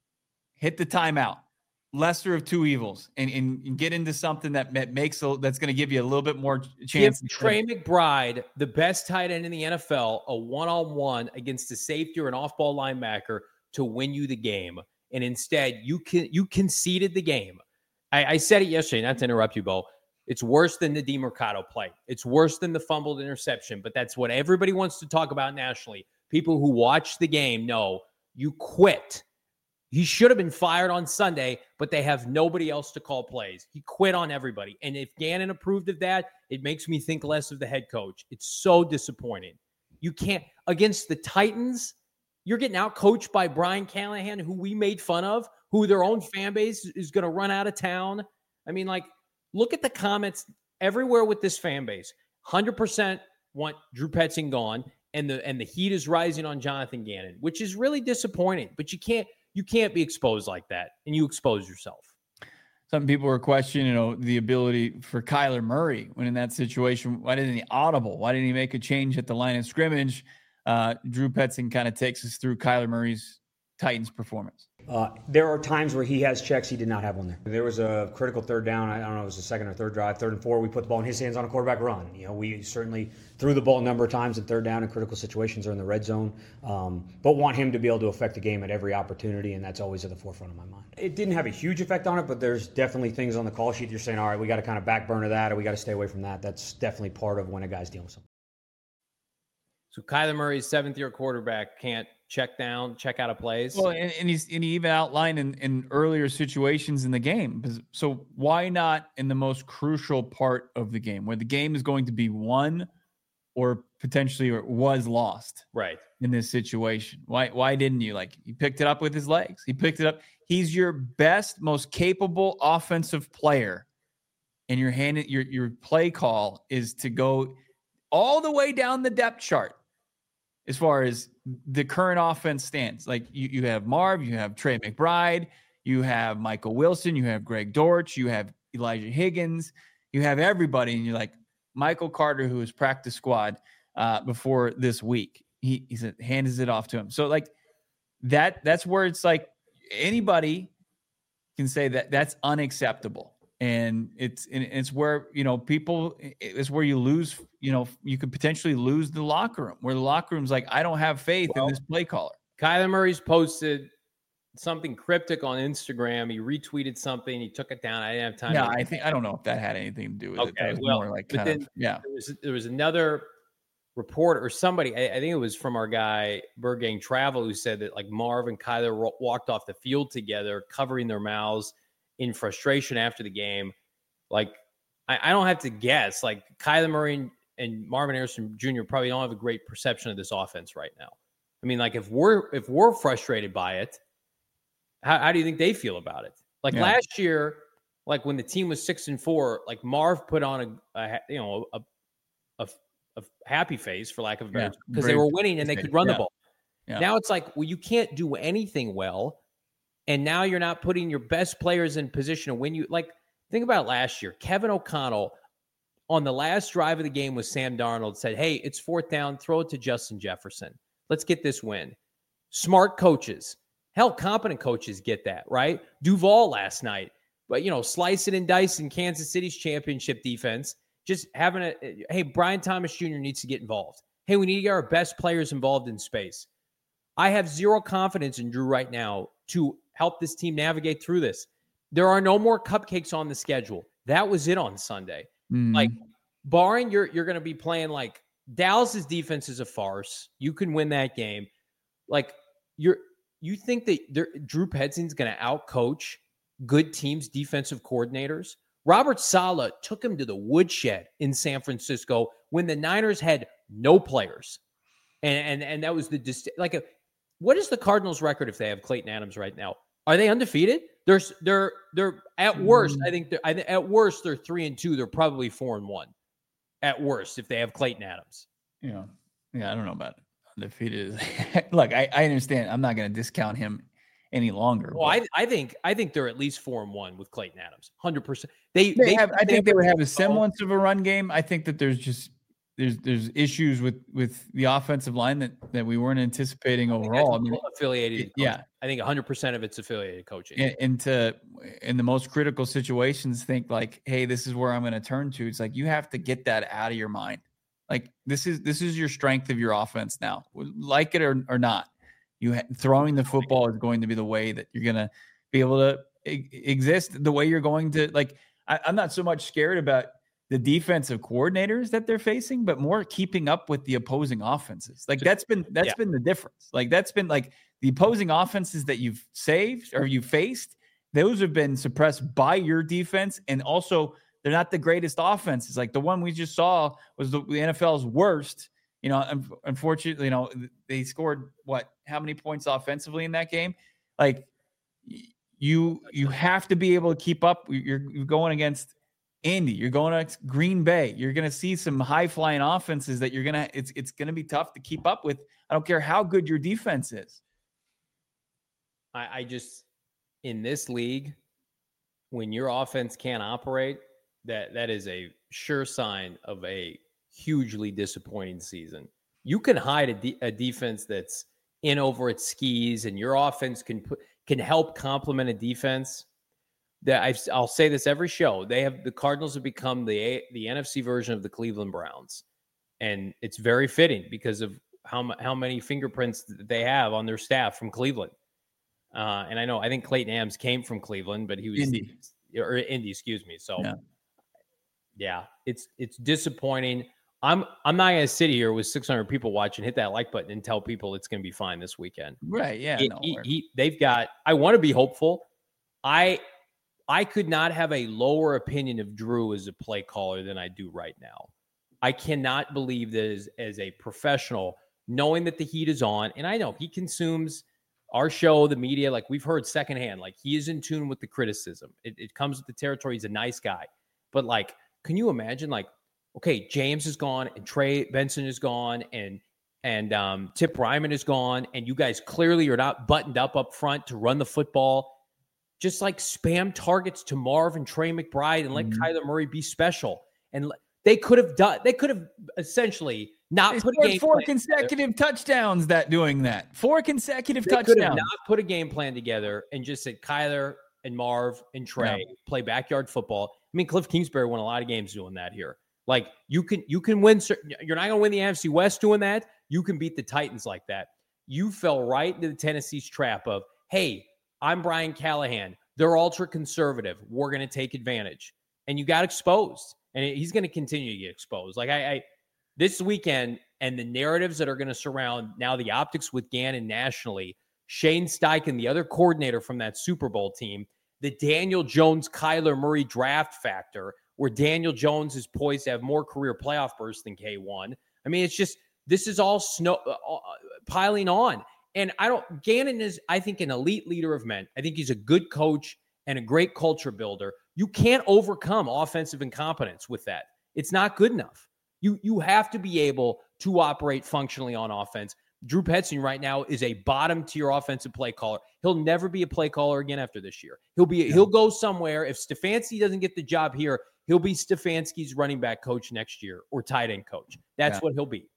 Hit the timeout. Lesser of two evils, and, and, and get into something that makes a, that's going to give you a little bit more chance. Give Trey McBride, the best tight end in the N F L, a one-on-one against a safety or an off-ball linebacker to win you the game, and instead you can you conceded the game. I, I said it yesterday, not to interrupt you, Bo. It's worse than the DeMercado play. It's worse than the fumbled interception, but that's what everybody wants to talk about nationally. People who watch the game know you quit. He should have been fired on Sunday, but they have nobody else to call plays. He quit on everybody. And if Gannon approved of that, it makes me think less of the head coach. It's so disappointing. You can't, against the Titans, you're getting out coached by Brian Callahan, who we made fun of, who their own fan base is going to run out of town. I mean, like, look at the comments everywhere with this fan base. one hundred percent want Drew Petzing gone, and the and the heat is rising on Jonathan Gannon, which is really disappointing. But you can't you can't be exposed like that, and you expose yourself. Some people were questioning, you know, the ability for Kyler Murray when in that situation. Why didn't he audible? Why didn't he make a change at the line of scrimmage? Uh, Drew Petzing kind of takes us through Kyler Murray's Titans performance. Uh, there are times where he has checks. He did not have one there. There was a critical third down. I don't know, it was the second or third drive, third and four. We put the ball in his hands on a quarterback run. You know, we certainly threw the ball a number of times in third down in critical situations or in the red zone, um, but want him to be able to affect the game at every opportunity, and that's always at the forefront of my mind. It didn't have a huge effect on it, but there's definitely things on the call sheet you're saying, all right, we got to kind of back burner that, or we got to stay away from that. That's definitely part of when a guy's dealing with something. So Kyler Murray's seventh-year quarterback can't check down, check out of plays. Well, and, and he's and he even outlined in, in earlier situations in the game. So why not in the most crucial part of the game, where the game is going to be won or potentially or was lost, right? In this situation, why why didn't you? Like, he picked it up with his legs. He picked it up. He's your best, most capable offensive player, and your hand your your play call is to go all the way down the depth chart. As far as the current offense stands, like you, you have Marv, you have Trey McBride, you have Michael Wilson, you have Greg Dortch, you have Elijah Higgins, you have everybody, and you're like, Michael Carter, who was practice squad uh, before this week, he he said hands it off to him. So like that, that's where it's like anybody can say that that's unacceptable. And it's and it's where, you know, people, it's where you lose, you know, you could potentially lose the locker room, where the locker room's like, I don't have faith well, in this play caller. Kyler Murray's posted something cryptic on Instagram. He retweeted something. He took it down. I didn't have time. Yeah, to- I think, I don't know if that had anything to do with okay, it. That was well, more like but kind then of, yeah. There was, there was another reporter or somebody, I, I think it was from our guy, Bird Gang Travel, who said that like Marv and Kyler ro- walked off the field together, covering their mouths in frustration after the game. Like, I, I don't have to guess. Like, Kyler Murray and, and Marvin Harrison Junior probably don't have a great perception of this offense right now. I mean, like, if we're if we're frustrated by it, how, how do you think they feel about it? Like yeah. last year, like when the team was six and four, like Marv put on a, a you know a, a a happy face, for lack of a better, because yeah. they were winning and they could run yeah. the ball. Yeah. Now it's like, well, you can't do anything well. And now you're not putting your best players in position to win. You like think about last year. Kevin O'Connell on the last drive of the game with Sam Darnold said, "Hey, it's fourth down. Throw it to Justin Jefferson. Let's get this win." Smart coaches, hell, competent coaches get that, right? Duval last night, but you know, slice it and dice in Kansas City's championship defense. just having a, hey, Brian Thomas Junior needs to get involved. Hey, we need to get our best players involved in space. I have zero confidence in Drew right now to help this team navigate through this. There are no more cupcakes on the schedule. That was it on Sunday. Mm-hmm. Like, barring you're you're going to be playing like Dallas's defense is a farce. You can win that game. Like, you're you think that Drew Petzing's going to outcoach good teams' defensive coordinators? Robert Saleh took him to the woodshed in San Francisco when the Niners had no players. And and, and that was the dist- like a, what is the Cardinals' record if they have Clayton Adams right now? Are they undefeated? They're they're they're at worst. Mm. I think they're I th- at worst they're three and two. They're probably four and one. At worst, if they have Clayton Adams. Yeah, yeah. I don't know about it. Undefeated. Look, I, I understand. I'm not going to discount him any longer. Well, I I think I think they're at least four and one with Clayton Adams. Hundred percent. They they, they have. I they think they would have a semblance of a run game. I think that there's just there's there's issues with with the offensive line that that we weren't anticipating overall. I, I mean, affiliated. It, yeah, I think one hundred percent of it's affiliated coaching. And, and to in the most critical situations, think like, hey, this is where I'm going to turn to. It's like you have to get that out of your mind. Like this is this is your strength of your offense now, like it or, or not. You ha- throwing the football is going to be the way that you're going to be able to e- exist. The way you're going to like. I, I'm not so much scared about the defensive coordinators that they're facing, but more keeping up with the opposing offenses. Like that's been that's yeah. been the difference. Like that's been like the opposing offenses that you've saved or you faced. Those have been suppressed by your defense, and also. They're not the greatest offenses. Like the one we just saw was the, the N F L's worst. You know, un- unfortunately, you know, they scored what? How many points offensively in that game? Like you, you have to be able to keep up. You're, you're going against Indy. You're going against Green Bay. You're going to see some high flying offenses that you're gonna. It's it's going to be tough to keep up with. I don't care how good your defense is. I, I just in this league, when your offense can't operate. That that is a sure sign of a hugely disappointing season. You can hide a, de- a defense that's in over its skis, and your offense can put, can help complement a defense. That I've, I'll say this every show. They have the Cardinals have become the the N F C version of the Cleveland Browns, and it's very fitting because of how how many fingerprints that they have on their staff from Cleveland. Uh, and I know I think Clayton Adams came from Cleveland, but he was Indy or Indy, excuse me. So. Yeah. Yeah, it's it's disappointing. I'm I'm not going to sit here with six hundred people watching, hit that like button, and tell people it's going to be fine this weekend. Right? Yeah. It, no he, he, they've got. I want to be hopeful. I I could not have a lower opinion of Drew as a play caller than I do right now. I cannot believe that as, as a professional, knowing that the heat is on, and I know he consumes our show, the media, like we've heard secondhand. Like he is in tune with the criticism. It, it comes with the territory. He's a nice guy, but like. Can you imagine, like, okay, James is gone and Trey Benson is gone and and um, Tip Ryman is gone, and you guys clearly are not buttoned up up front to run the football. Just like spam targets to Marv and Trey McBride and let mm-hmm. Kyler Murray be special. And they could have done. They could have essentially not they put a game four plan consecutive together. touchdowns. That doing that four consecutive they touchdowns. Could have not put a game plan together and just said Kyler and Marv and Trey yeah. play backyard football. I mean, Cliff Kingsbury won a lot of games doing that here. Like you can, you can win. You're not going to win the N F C West doing that. You can beat the Titans like that. You fell right into the Tennessee's trap of, hey, I'm Brian Callahan. They're ultra conservative. We're going to take advantage, and you got exposed. And he's going to continue to get exposed. Like I, I this weekend, and the narratives that are going to surround now the optics with Gannon nationally. Shane Steichen, the other coordinator from that Super Bowl team. The Daniel Jones, Kyler Murray draft factor, where Daniel Jones is poised to have more career playoff bursts than K one. I mean, it's just, this is all snow uh, piling on. And I don't, Gannon is, I think, an elite leader of men. I think he's a good coach and a great culture builder. You can't overcome offensive incompetence with that. It's not good enough. You, you have to be able to operate functionally on offense. Drew Petzing right now is a bottom tier offensive play caller. He'll never be a play caller again after this year. He'll be yeah. he'll go somewhere. If Stefanski doesn't get the job here, he'll be Stefanski's running back coach next year or tight end coach. That's yeah. what he'll be.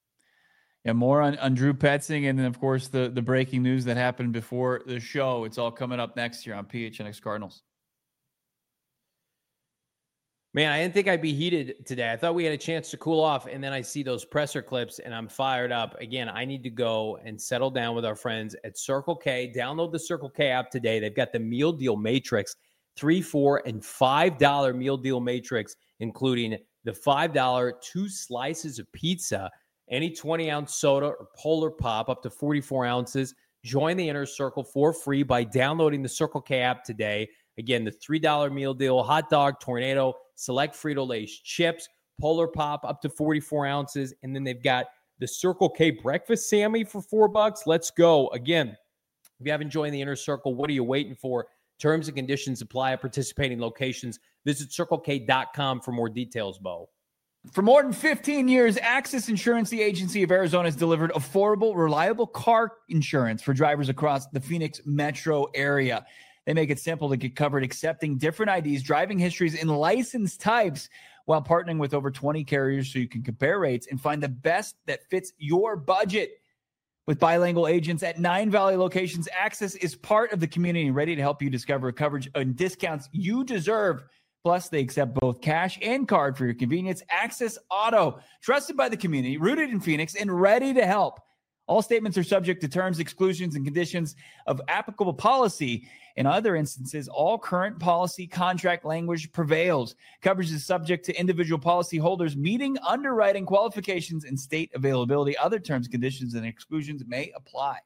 Yeah, more on, on Drew Petzing, and then of course the the breaking news that happened before the show. It's all coming up next year on P H N X Cardinals. Man, I didn't think I'd be heated today. I thought we had a chance to cool off, and then I see those presser clips, and I'm fired up. Again, I need to go and settle down with our friends at Circle K. Download the Circle K app today. They've got the meal deal matrix, three, four, and five dollar meal deal matrix, including the five dollar two slices of pizza, any twenty-ounce soda or Polar Pop up to forty-four ounces. Join the Inner Circle for free by downloading the Circle K app today. Again, the three dollar meal deal, hot dog, tornado, select Frito-Lay's chips, Polar Pop up to forty-four ounces. And then they've got the Circle K breakfast Sammy for four bucks. Let's go. Again, if you haven't joined the Inner Circle, what are you waiting for? Terms and conditions apply at participating locations. Visit circle k dot com for more details, Bo. For more than fifteen years, Axis Insurance, the agency of Arizona, has delivered affordable, reliable car insurance for drivers across the Phoenix metro area. They make it simple to get covered, accepting different I Ds, driving histories, and license types while partnering with over twenty carriers so you can compare rates and find the best that fits your budget. With bilingual agents at nine Valley locations, Axis is part of the community ready to help you discover coverage and discounts you deserve. Plus, they accept both cash and card for your convenience. Axis Auto, trusted by the community, rooted in Phoenix, and ready to help. All statements are subject to terms, exclusions, and conditions of applicable policy. In other instances, all current policy contract language prevails. Coverage is subject to individual policy holders meeting underwriting qualifications and state availability. Other terms, conditions, and exclusions may apply.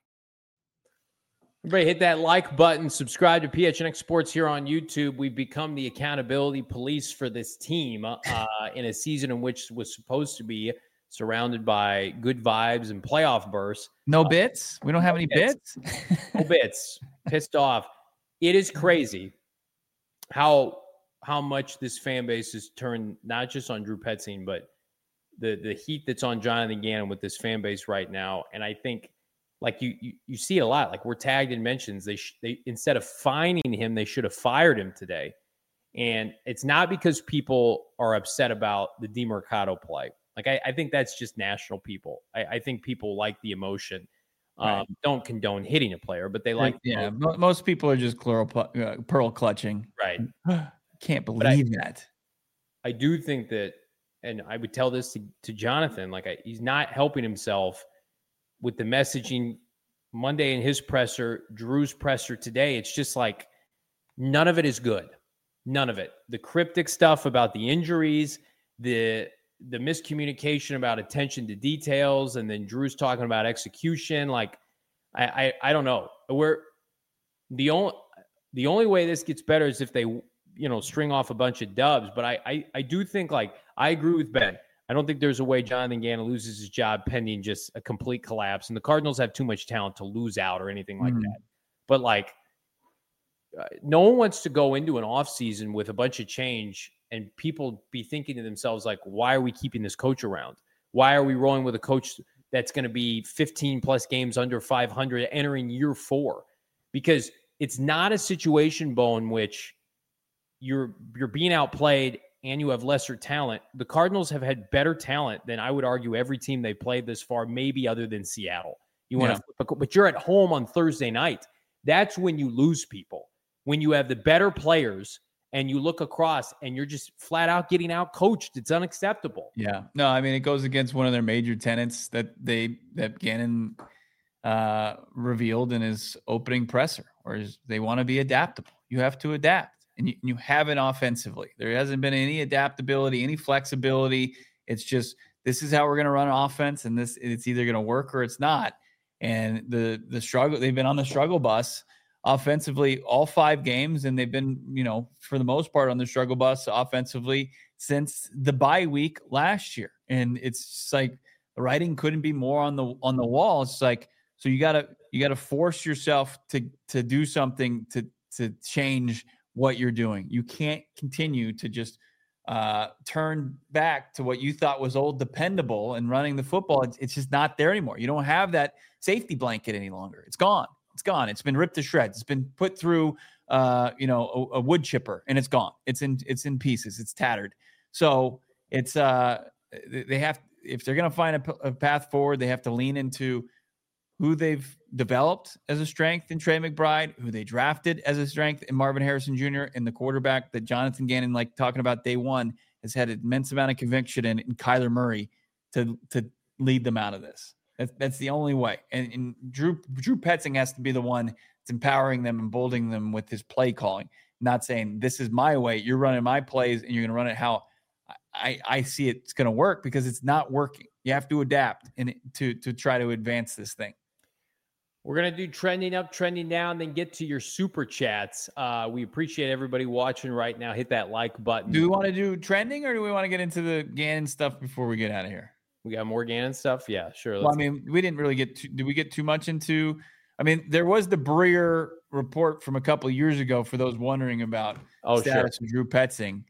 Everybody hit that like button. Subscribe to P H N X Sports here on YouTube. We've become the accountability police for this team uh, in a season in which was supposed to be surrounded by good vibes and playoff bursts. No bits? We don't have any bits? No bits. Pissed off. It is crazy how how much this fan base has turned not just on Drew Petzing, but the the heat that's on Jonathan Gannon with this fan base right now. And I think, like you you, you see a lot. Like we're tagged in mentions. They sh- they instead of fining him, they should have fired him today. And it's not because people are upset about the DeMercado play. Like I, I think that's just national people. I, I think people like the emotion. Um, right. Don't condone hitting a player, but they like. Yeah, the most people are just pearl, uh, pearl clutching. Right. Can't believe I, that. I do think that, and I would tell this to, to Jonathan, like I, he's not helping himself with the messaging Monday in his presser, Drew's presser today. It's just like none of it is good. None of it. The cryptic stuff about the injuries, the the miscommunication about attention to details, and then Drew's talking about execution. Like, I, I, I don't know. We're the only the only way this gets better is if they, you know, string off a bunch of dubs. But I, I, I do think, like, I agree with Ben. I don't think there's a way Jonathan Gannon loses his job pending just a complete collapse. And the Cardinals have too much talent to lose out or anything like mm. that. But like, uh, no one wants to go into an offseason with a bunch of change and people be thinking to themselves, like, why are we keeping this coach around? Why are we rolling with a coach that's going to be fifteen plus games under five hundred entering year four? Because it's not a situation, Bo, in which you're you're being outplayed and you have lesser talent. The Cardinals have had better talent than I would argue every team they played this far, maybe other than Seattle. You want to, yeah. But you're at home on Thursday night. That's when you lose people. When you have the better players and you look across and you're just flat out getting out coached. It's unacceptable. Yeah. No, I mean, it goes against one of their major tenets that they, that Gannon uh, revealed in his opening presser, or is they want to be adaptable. You have to adapt, and you, you haven't offensively. There hasn't been any adaptability, any flexibility. It's just, this is how we're going to run an offense, and this, it's either going to work or it's not. And the, the struggle, they've been on the struggle bus offensively all five games, and they've been, you know, for the most part on the struggle bus offensively since the bye week last year. And it's just like the writing couldn't be more on the on the wall. It's like, so you gotta you gotta force yourself to to do something to to change what you're doing. You can't continue to just uh, turn back to what you thought was old dependable and running the football. It's, it's just not there anymore. You don't have that safety blanket any longer. It's gone. It's gone. It's been ripped to shreds. It's been put through, uh, you know, a, a wood chipper, and it's gone. It's in, it's in pieces. It's tattered. So it's, uh, they have, if they're going to find a, a path forward, they have to lean into who they've, developed as a strength in Trey McBride, who they drafted as a strength in Marvin Harrison Junior, and the quarterback that Jonathan Gannon, like talking about day one, has had an immense amount of conviction in, in Kyler Murray to to lead them out of this. That's that's the only way. And, and Drew Drew Petzing has to be the one that's empowering them and emboldening them with his play calling, not saying this is my way. You're running my plays and you're going to run it how I, I see it's going to work, because it's not working. You have to adapt and to to try to advance this thing. We're going to do trending up, trending down, then get to your super chats. Uh, we appreciate everybody watching right now. Hit that like button. Do we want to do trending, or do we want to get into the Gannon stuff before we get out of here? We got more Gannon stuff? Yeah, sure. Well, I mean, we didn't really get too, did we get too much into, I mean, there was the Breer report from a couple of years ago for those wondering about oh, status sure. of Drew Petzing.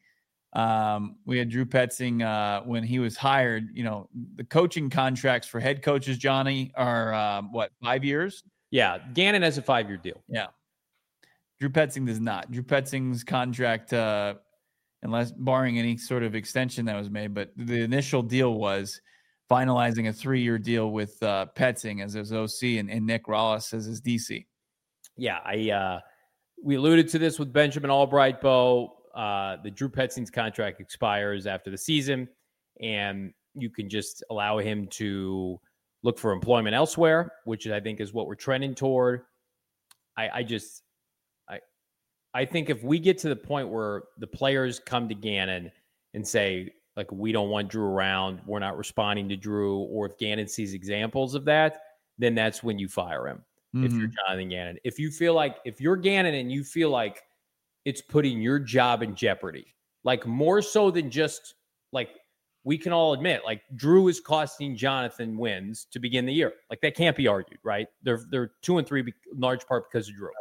Um, we had Drew Petzing uh, when he was hired. You know, the coaching contracts for head coaches, Johnny, are um, what, five years? Yeah, Gannon has a five-year deal. Yeah. Drew Petzing does not. Drew Petzing's contract, uh, unless barring any sort of extension that was made, but the initial deal was finalizing a three-year deal with uh, Petzing as his O C and, and Nick Rollis as his D C. Yeah, I uh, we alluded to this with Benjamin Albright, Bo. Uh, the Drew Petzing's contract expires after the season, and you can just allow him to look for employment elsewhere, which I think is what we're trending toward. I, I just, I, I think if we get to the point where the players come to Gannon and say, like, we don't want Drew around, we're not responding to Drew, or if Gannon sees examples of that, then that's when you fire him. Mm-hmm. If you're Jonathan Gannon, if you feel like, if you're Gannon and you feel like it's putting your job in jeopardy, like more so than just like, we can all admit, like, Drew is costing Jonathan wins to begin the year. Like, that can't be argued, right? They're they're two and three, in large part because of Drew.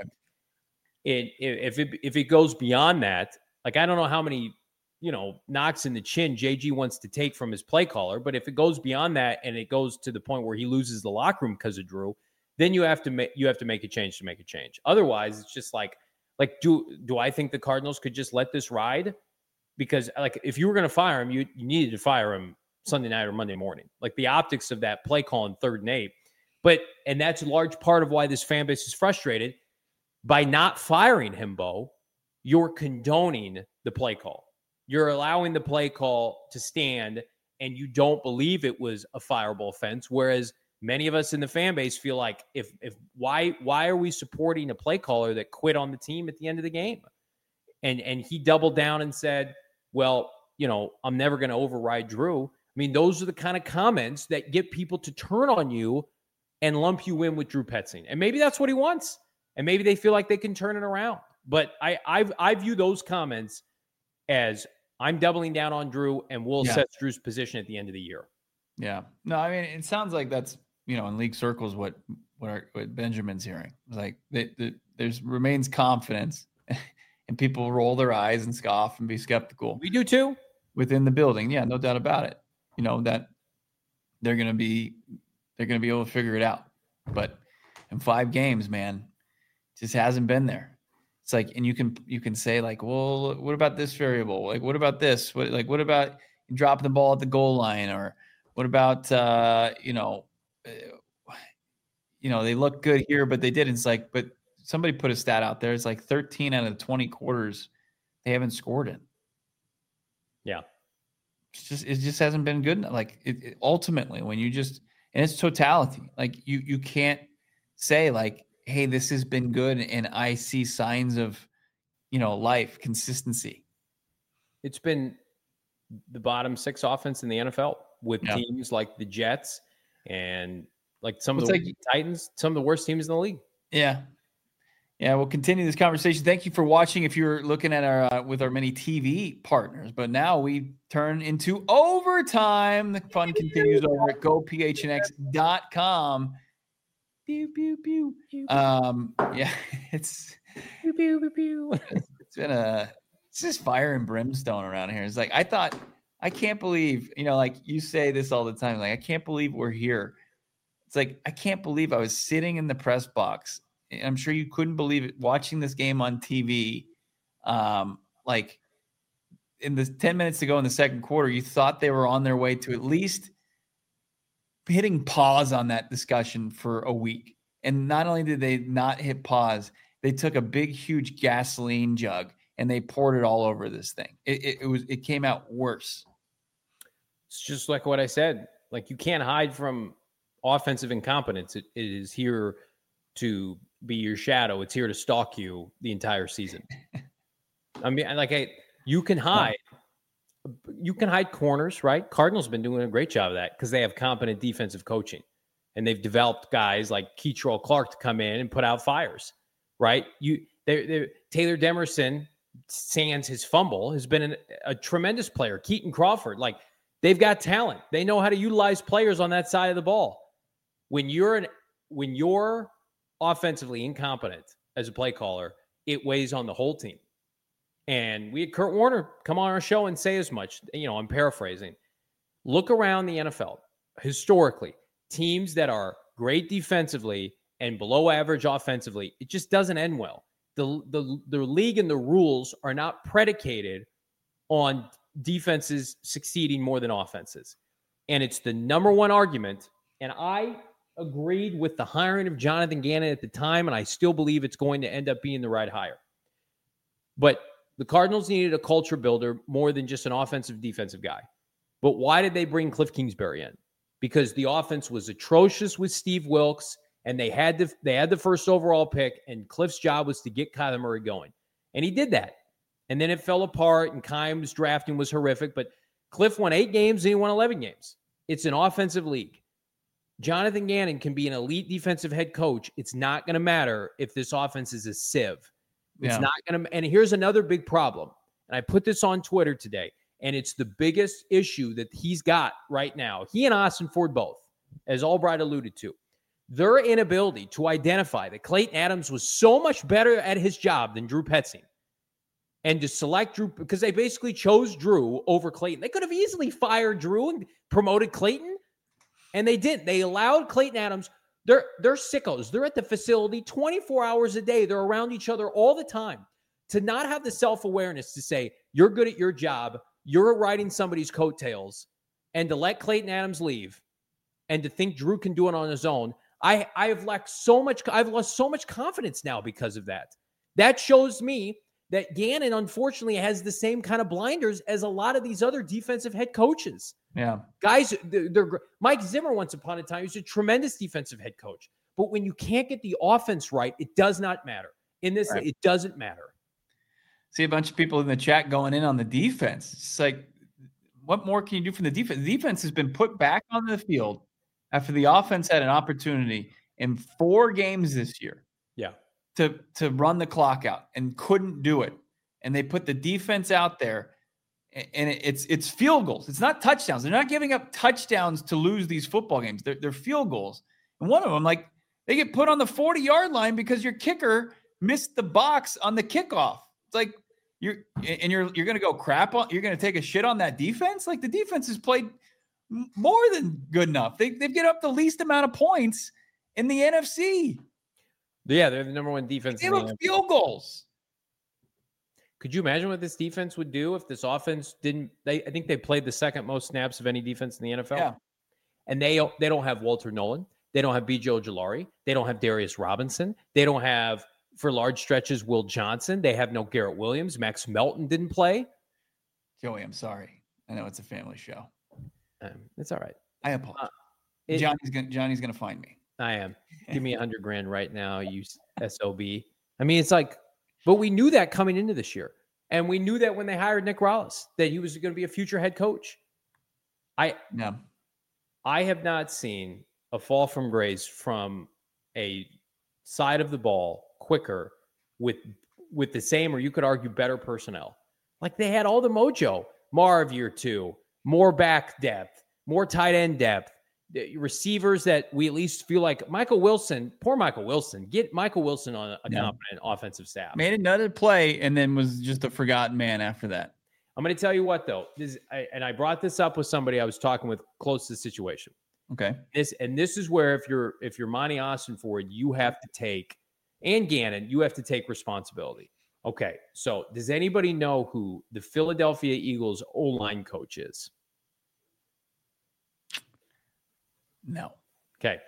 It, if it if it goes beyond that, like, I don't know how many, you know, knocks in the chin J G wants to take from his play caller, but if it goes beyond that and it goes to the point where he loses the locker room because of Drew, then you have to make you have to make a change to make a change. Otherwise, it's just like like do do I think the Cardinals could just let this ride? Because, like, if you were going to fire him, you, you needed to fire him Sunday night or Monday morning. Like, the optics of that play call in third and eight. But, and that's a large part of why this fan base is frustrated. By not firing him, Bo, you're condoning the play call. You're allowing the play call to stand, and you don't believe it was a fireable offense. Whereas many of us in the fan base feel like, if if why why are we supporting a play caller that quit on the team at the end of the game? And and he doubled down and said, well, you know, I'm never going to override Drew. I mean, those are the kind of comments that get people to turn on you and lump you in with Drew Petzing. And maybe that's what he wants. And maybe they feel like they can turn it around. But I I've, I view those comments as, I'm doubling down on Drew, and we'll yeah. assess Drew's position at the end of the year. Yeah. No, I mean, it sounds like that's, you know, in league circles, what what, our, what Benjamin's hearing. It's like they, they, there's remains confidence. And people roll their eyes and scoff and be skeptical. We do too. Within the building. Yeah, no doubt about it. You know, that they're going to be, they're going to be able to figure it out. But in five games, man, it just hasn't been there. It's like, and you can, you can say like, well, what about this variable? Like, what about this? What, like, what about dropping the ball at the goal line? Or what about, uh, you know, uh, you know, they look good here, but they didn't. It's like, but somebody put a stat out there. It's like thirteen out of the twenty quarters they haven't scored in. Yeah. It's just, it just hasn't been good. Like it, it, ultimately when you just, and it's totality, like you, you can't say like, hey, this has been good. And I see signs of, you know, life, consistency. It's been the bottom six offense in the N F L with yeah. teams like the Jets and like some well, of the like, Titans, some of the worst teams in the league. Yeah. Yeah, we'll continue this conversation. Thank you for watching if you're looking at our uh, with our many T V partners. But now we turn into overtime. The fun continues over at go p h n x dot com. Pew, pew, pew. Um, yeah, it's, pew, pew, pew, pew. it's been a it's just fire and brimstone around here. It's like I thought, I can't believe, you know, like you say this all the time, like I can't believe we're here. It's like I can't believe I was sitting in the press box. I'm sure you couldn't believe it watching this game on T V. Um, like in the ten minutes to go in the second quarter, you thought they were on their way to at least hitting pause on that discussion for a week. And not only did they not hit pause, they took a big, huge gasoline jug and they poured it all over this thing. It, it, it was, it came out worse. It's just like what I said. Like, you can't hide from offensive incompetence. It, it is here to be your shadow. It's here to stalk you the entire season. I mean, like, I, you can hide. You can hide corners, right? Cardinals have been doing a great job of that because they have competent defensive coaching. And they've developed guys like Keitrell Clark to come in and put out fires, right? You, they're, they're, Taylor Demerson, sans his fumble, has been an, a tremendous player. Keaton Crawford, like, they've got talent. They know how to utilize players on that side of the ball. When you're an, when you're offensively incompetent as a play caller, it weighs on the whole team. And we had Kurt Warner come on our show and say as much. You know, I'm paraphrasing. Look around the N F L historically. Teams that are great defensively and below average offensively, it just doesn't end well. The, the, the league and the rules are not predicated on defenses succeeding more than offenses. And it's the number one argument. And I agreed with the hiring of Jonathan Gannon at the time, and I still believe it's going to end up being the right hire. But the Cardinals needed a culture builder more than just an offensive defensive guy. But why did they bring Cliff Kingsbury in? Because the offense was atrocious with Steve Wilks, and they had the they had the first overall pick, and Cliff's job was to get Kyler Murray going. And he did that. And then it fell apart, and Keim's drafting was horrific. But Cliff won eight games, and he won eleven games. It's an offensive league. Jonathan Gannon can be an elite defensive head coach. It's not going to matter if this offense is a sieve. It's yeah. not going to. And here's another big problem. And I put this on Twitter today. And it's the biggest issue that he's got right now. He and Austin Ford both, as Albright alluded to. Their inability to identify that Clayton Adams was so much better at his job than Drew Petzing. And to select Drew, because they basically chose Drew over Clayton. They could have easily fired Drew and promoted Clayton. And they didn't. They allowed Clayton Adams. They're, they're sickos. They're at the facility twenty-four hours a day. They're around each other all the time. To not have the self-awareness to say, you're good at your job, you're riding somebody's coattails, and to let Clayton Adams leave and to think Drew can do it on his own, I, I have lacked so much, I've lost so much confidence now because of that. That shows me that Gannon, unfortunately, has the same kind of blinders as a lot of these other defensive head coaches. Yeah. Guys, they're, they're Mike Zimmer, once upon a time, was a tremendous defensive head coach. But when you can't get the offense right, it does not matter. In this, right. It doesn't matter. See a bunch of people in the chat going in on the defense. It's like, what more can you do from the defense? The defense has been put back on the field after the offense had an opportunity in four games this year. Yeah. To, to run the clock out and couldn't do it. And they put the defense out there, and it's it's field goals. It's not touchdowns. They're not giving up touchdowns to lose these football games. They're, they're field goals. And one of them, like, they get put on the forty-yard line because your kicker missed the box on the kickoff. It's like you're and you're you're gonna go crap on. You're gonna take a shit on that defense. Like, the defense has played more than good enough. They they've get up the least amount of points in the N F C. Yeah, they're the number one defense. They give up field goals. Could you imagine what this defense would do if this offense didn't? They I think they played the second most snaps of any defense in the N F L. Yeah. And they they don't have Walter Nolan. They don't have B J Ojulari. They don't have Darius Robinson. They don't have, for large stretches, Will Johnson. They have no Garrett Williams. Max Melton didn't play. Joey, I'm sorry. I know it's a family show. Um, it's all right. I apologize. Uh, it, Johnny's gonna Johnny's gonna find me. I am. Give me a hundred grand right now, you S O B. I mean, it's like, but we knew that coming into this year. And we knew that when they hired Nick Rallis, that he was going to be a future head coach. I no. I have not seen a fall from grace from a side of the ball quicker with with the same, or you could argue better personnel. Like, they had all the mojo. Marv year two, more back depth, more tight end depth, receivers that we at least feel like Michael Wilson, poor Michael Wilson, get Michael Wilson on a yeah. competent offensive staff. Made another play and then was just a forgotten man after that. I'm going to tell you what, though, this, I, and I brought this up with somebody I was talking with close to the situation. Okay. This and this is where if you're if you're Monty Austin Ford, you have to take, and Gannon, you have to take responsibility. Okay, so does anybody know who the Philadelphia Eagles O-line coach is? No. Okay.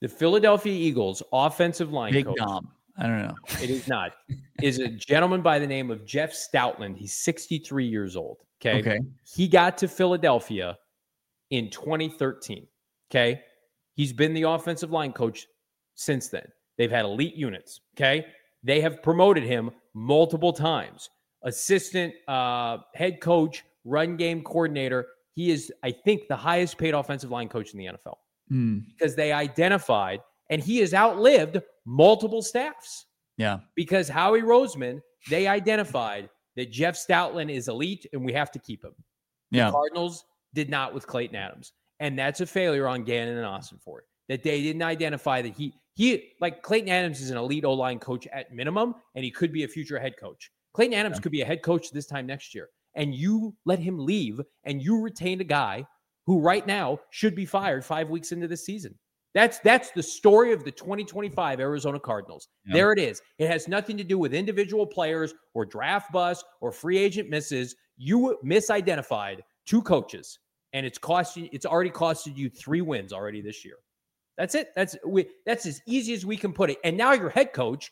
The Philadelphia Eagles offensive line Big coach. Dom. I don't know. It is not. Is a gentleman by the name of Jeff Stoutland. He's sixty-three years old. Okay. Okay. He got to Philadelphia in twenty thirteen. Okay. He's been the offensive line coach since then. They've had elite units. Okay. They have promoted him multiple times. Assistant, uh, head coach, run game coordinator. He is, I think, the highest paid offensive line coach in the N F L Mm. because they identified, and he has outlived multiple staffs. Yeah. Because Howie Roseman, they identified that Jeff Stoutland is elite and we have to keep him. Yeah. The Cardinals did not with Clayton Adams. And that's a failure on Gannon and Ossenfort, that they didn't identify that he, he like Clayton Adams is an elite O-line coach at minimum, and he could be a future head coach. Clayton Adams yeah. could be a head coach this time next year. And you let him leave, and you retained a guy who right now should be fired five weeks into the season. That's that's the story of the twenty twenty-five Arizona Cardinals. Yep. There it is. It has nothing to do with individual players or draft bust or free agent misses. You misidentified two coaches, and it's costing. It's already costed you three wins already this year. That's it. That's we. That's as easy as we can put it. And now your head coach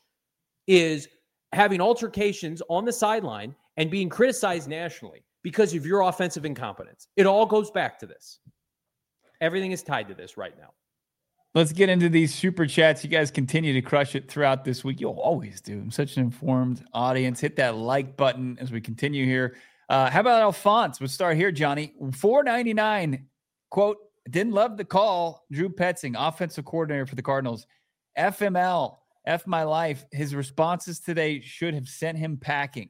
is having altercations on the sideline and being criticized nationally because of your offensive incompetence. It all goes back to this. Everything is tied to this right now. Let's get into these super chats. You guys continue to crush it throughout this week. You'll always do. I'm such an informed audience. Hit that like button as we continue here. Uh, how about Alphonse? We'll start here, Johnny. four ninety-nine, quote, didn't love the call. Drew Petzing, offensive coordinator for the Cardinals. F M L, F my life. His responses today should have sent him packing.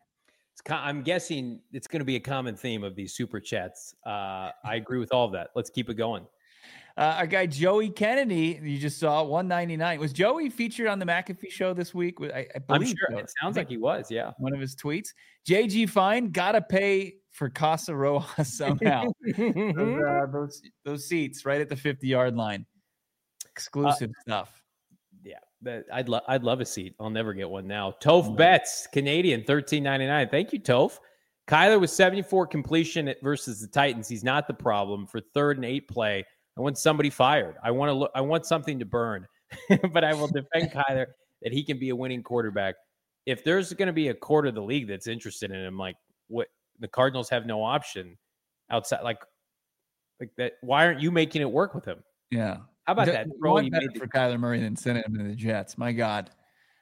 I'm guessing it's going to be a common theme of these super chats. Uh, I agree with all of that. Let's keep it going. Uh, our guy Joey Kennedy, you just saw one ninety-nine. Was Joey featured on the McAfee show this week? I, I believe I'm sure so. It sounds like he was. Yeah, one of his tweets. J G Fine gotta pay for Casa Rojas somehow. those, uh, those those seats right at the fifty yard line. Exclusive uh, stuff. Yeah, but I'd love I'd love a seat. I'll never get one now. Toph Betts, Canadian, thirteen ninety-nine. Thank you, Toph. Kyler with seventy-four completion versus the Titans. He's not the problem for third and eight play. I want somebody fired. I want to look. I want something to burn, but I will defend Kyler that he can be a winning quarterback. If there's going to be a quarter of the league that's interested in him, like what the Cardinals have no option outside, like like that. Why aren't you making it work with him? Yeah. How about D- that? Throw you made for the- Kyler Murray than sending him to the Jets. My God.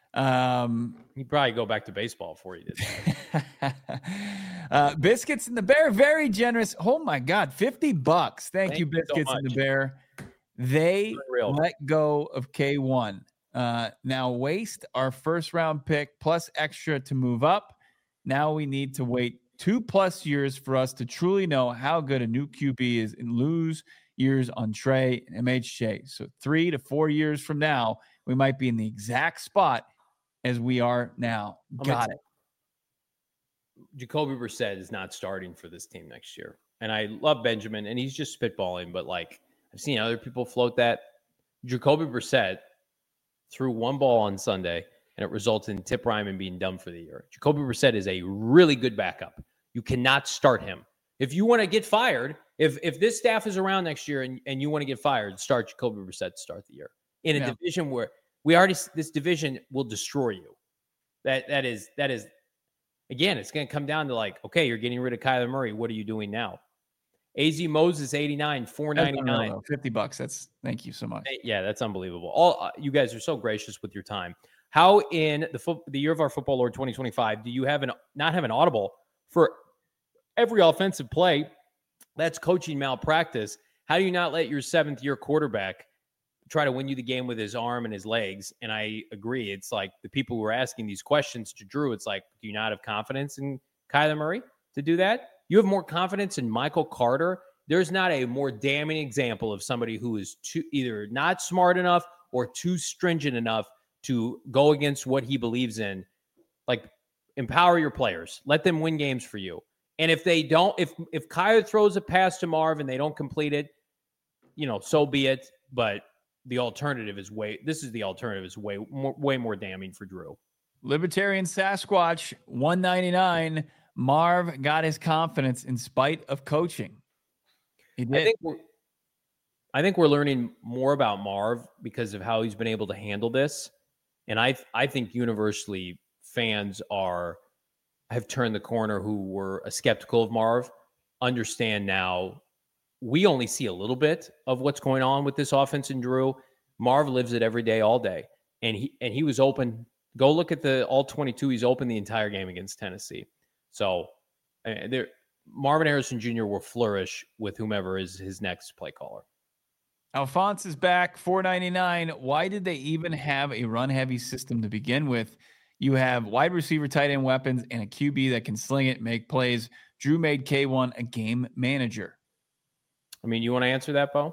Um, He'd probably go back to baseball before he did that. uh, Biscuits and the Bear, very generous. Oh my God, fifty bucks. Thank, Thank you, Biscuits so and the Bear. They Unreal. let go of K one. Uh, now waste our first round pick plus extra to move up. Now we need to wait two plus years for us to truly know how good a new Q B is and lose years on Trey and M H J. So three to four years from now, we might be in the exact spot as we are now. Got it. Jacoby Brissett is not starting for this team next year. And I love Benjamin, and he's just spitballing, but like I've seen other people float that. Jacoby Brissett threw one ball on Sunday, and it resulted in Tip Ryman being done for the year. Jacoby Brissett is a really good backup. You cannot start him. If you want to get fired, if if this staff is around next year and, and you want to get fired, start Jacoby Brissett to start the year. In a yeah. division where we already, this division will destroy you. That That is, that is, again, it's going to come down to like, okay, you're getting rid of Kyler Murray. What are you doing now? A Z Moses, eighty-nine, four ninety-nine. fifty bucks. That's, thank you so much. Yeah, that's unbelievable. All uh, you guys are so gracious with your time. How in the fo- the year of our football Lord twenty twenty-five do you have an not have an audible for every offensive play? That's coaching malpractice. How do you not let your seventh year quarterback try to win you the game with his arm and his legs? And I agree. It's like the people who are asking these questions to Drew, it's like, do you not have confidence in Kyler Murray to do that? You have more confidence in Michael Carter. There's not a more damning example of somebody who is too, either not smart enough or too stringent enough to go against what he believes in. Like, empower your players. Let them win games for you. And if they don't, if if Kyler throws a pass to Marv and they don't complete it, you know, so be it. But the alternative is way, this is the alternative is way more, way more damning for Drew. Libertarian Sasquatch, one ninety-nine. Marv got his confidence in spite of coaching. He did. I think we're, I think we're learning more about Marv because of how he's been able to handle this. And I I think universally fans are have turned the corner who were skeptical of Marv, understand now we only see a little bit of what's going on with this offense in Drew. Marv lives it every day, all day. And he and he was open. Go look at the all twenty-two. He's open the entire game against Tennessee. So uh, there, Marvin Harrison Junior will flourish with whomever is his next play caller. Alphonse is back, four ninety-nine. Why did they even have a run-heavy system to begin with? You have wide receiver, tight end weapons, and a Q B that can sling it, make plays. Drew made K one a game manager. I mean, you want to answer that, Bo?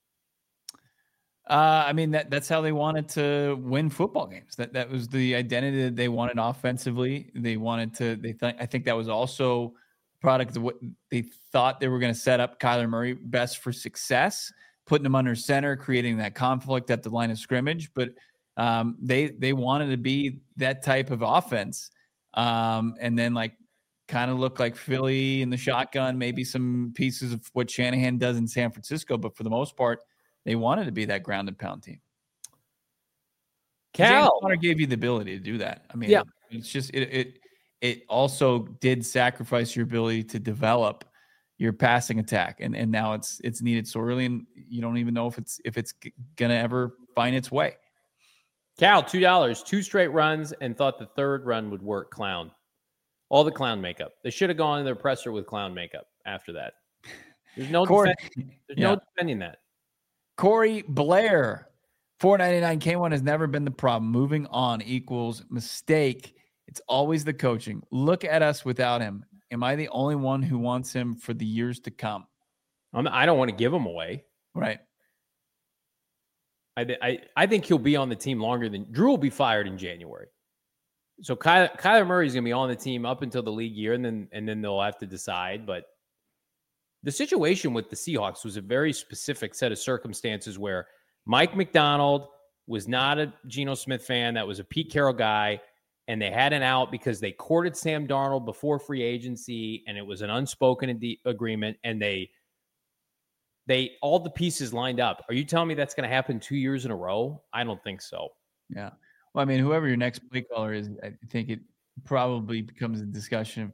Uh, I mean, that that's how they wanted to win football games. That that was the identity that they wanted offensively. They wanted to. They th- I think that was also a product of what they thought they were going to set up Kyler Murray best for success, putting him under center, creating that conflict at the line of scrimmage. But um, they they wanted to be that type of offense, um, and then like kind of look like Philly in the shotgun, maybe some pieces of what Shanahan does in San Francisco. But for the most part, they wanted to be that ground and pound team. Cal James Conner gave you the ability to do that. I mean, yeah. it's just it it it also did sacrifice your ability to develop your passing attack, and and now it's it's needed sorely, and you don't even know if it's if it's gonna ever find its way. Cal, two dollars, two straight runs, and thought the third run would work. Clown, all the clown makeup. They should have gone to their presser with clown makeup after that. There's no Corey, defending, there's yeah. no defending that. Corey Blair, four ninety-nine. K one has never been the problem. Moving on equals mistake. It's always the coaching. Look at us without him. Am I the only one who wants him for the years to come? I'm, I don't want to give him away. Right. I, I I think he'll be on the team longer than Drew will be fired in January. So Kyler, Kyler Murray is going to be on the team up until the league year, and then and then they'll have to decide. But the situation with the Seahawks was a very specific set of circumstances where Mike McDonald was not a Geno Smith fan. That was a Pete Carroll guy. And they had an out because they courted Sam Darnold before free agency, and it was an unspoken ade- agreement. And they, they all the pieces lined up. Are you telling me that's going to happen two years in a row? I don't think so. Yeah. Well, I mean, whoever your next play caller is, I think it probably becomes a discussion of,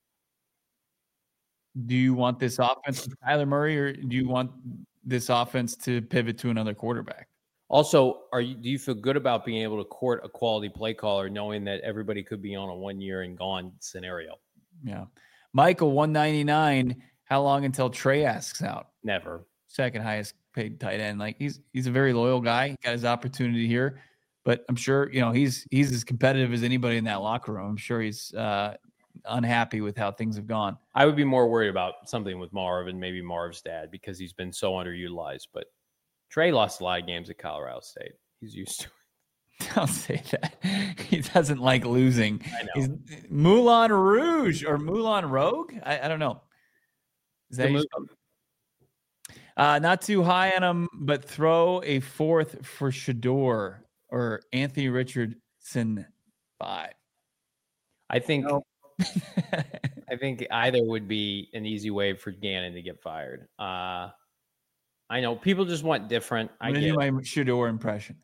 do you want this offense with Kyler Murray, or do you want this offense to pivot to another quarterback? Also, are you do you feel good about being able to court a quality play caller, knowing that everybody could be on a one year and gone scenario? Yeah. Michael, one ninety-nine. How long until Trey asks out? Never. Second highest paid tight end. Like he's he's a very loyal guy. He got his opportunity here, but I'm sure you know he's he's as competitive as anybody in that locker room. I'm sure he's uh, unhappy with how things have gone. I would be more worried about something with Marv and maybe Marv's dad because he's been so underutilized, but. Trey lost a lot of games at Colorado State. He's used to it. Don't say that. He doesn't like losing. I know. He's Moulin Rouge or Moulin Rogue? I, I don't know. Is that you uh, not too high on him, but throw a fourth for Shador or Anthony Richardson five. I think No. I think either would be an easy way for Gannon to get fired. Uh I know people just want different. I I'm get do my Shador impression.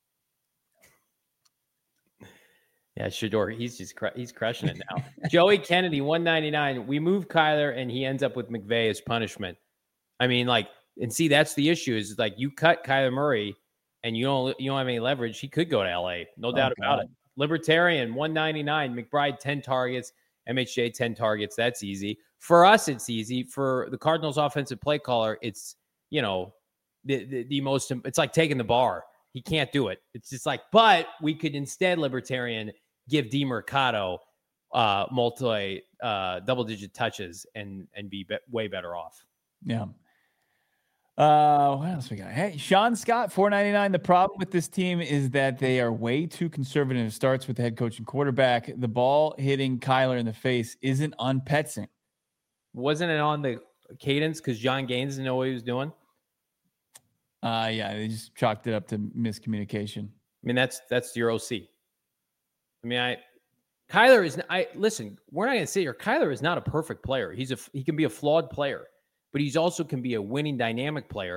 Yeah, Shador, he's just cr- he's crushing it now. Joey Kennedy, one ninety-nine. We move Kyler, and he ends up with McVay as punishment. I mean, like, and see, that's the issue. Is like you cut Kyler Murray, and you don't you don't have any leverage. He could go to L A, no Oh, doubt about God. it. Libertarian, one ninety-nine. McBride, ten targets. M H J, ten targets. That's easy for us. It's easy for the Cardinals' offensive play caller. It's you know, the, the the most, it's like taking the bar. He can't do it. It's just like, but we could instead, Libertarian, give DeMercado uh, multi uh, double digit touches and and be, be way better off. Yeah. Uh, what else we got? Hey, Sean Scott, four ninety-nine. The problem with this team is that they are way too conservative. It starts with the head coach and quarterback. The ball hitting Kyler in the face isn't on Petzing. Wasn't it on the cadence because John Gaines didn't know what he was doing? Uh, yeah, they just chalked it up to miscommunication. I mean, that's that's your O C. I mean, I Kyler is. I listen. We're not going to sit here. Kyler is not a perfect player. He's a he can be a flawed player, but he's also can be a winning dynamic player.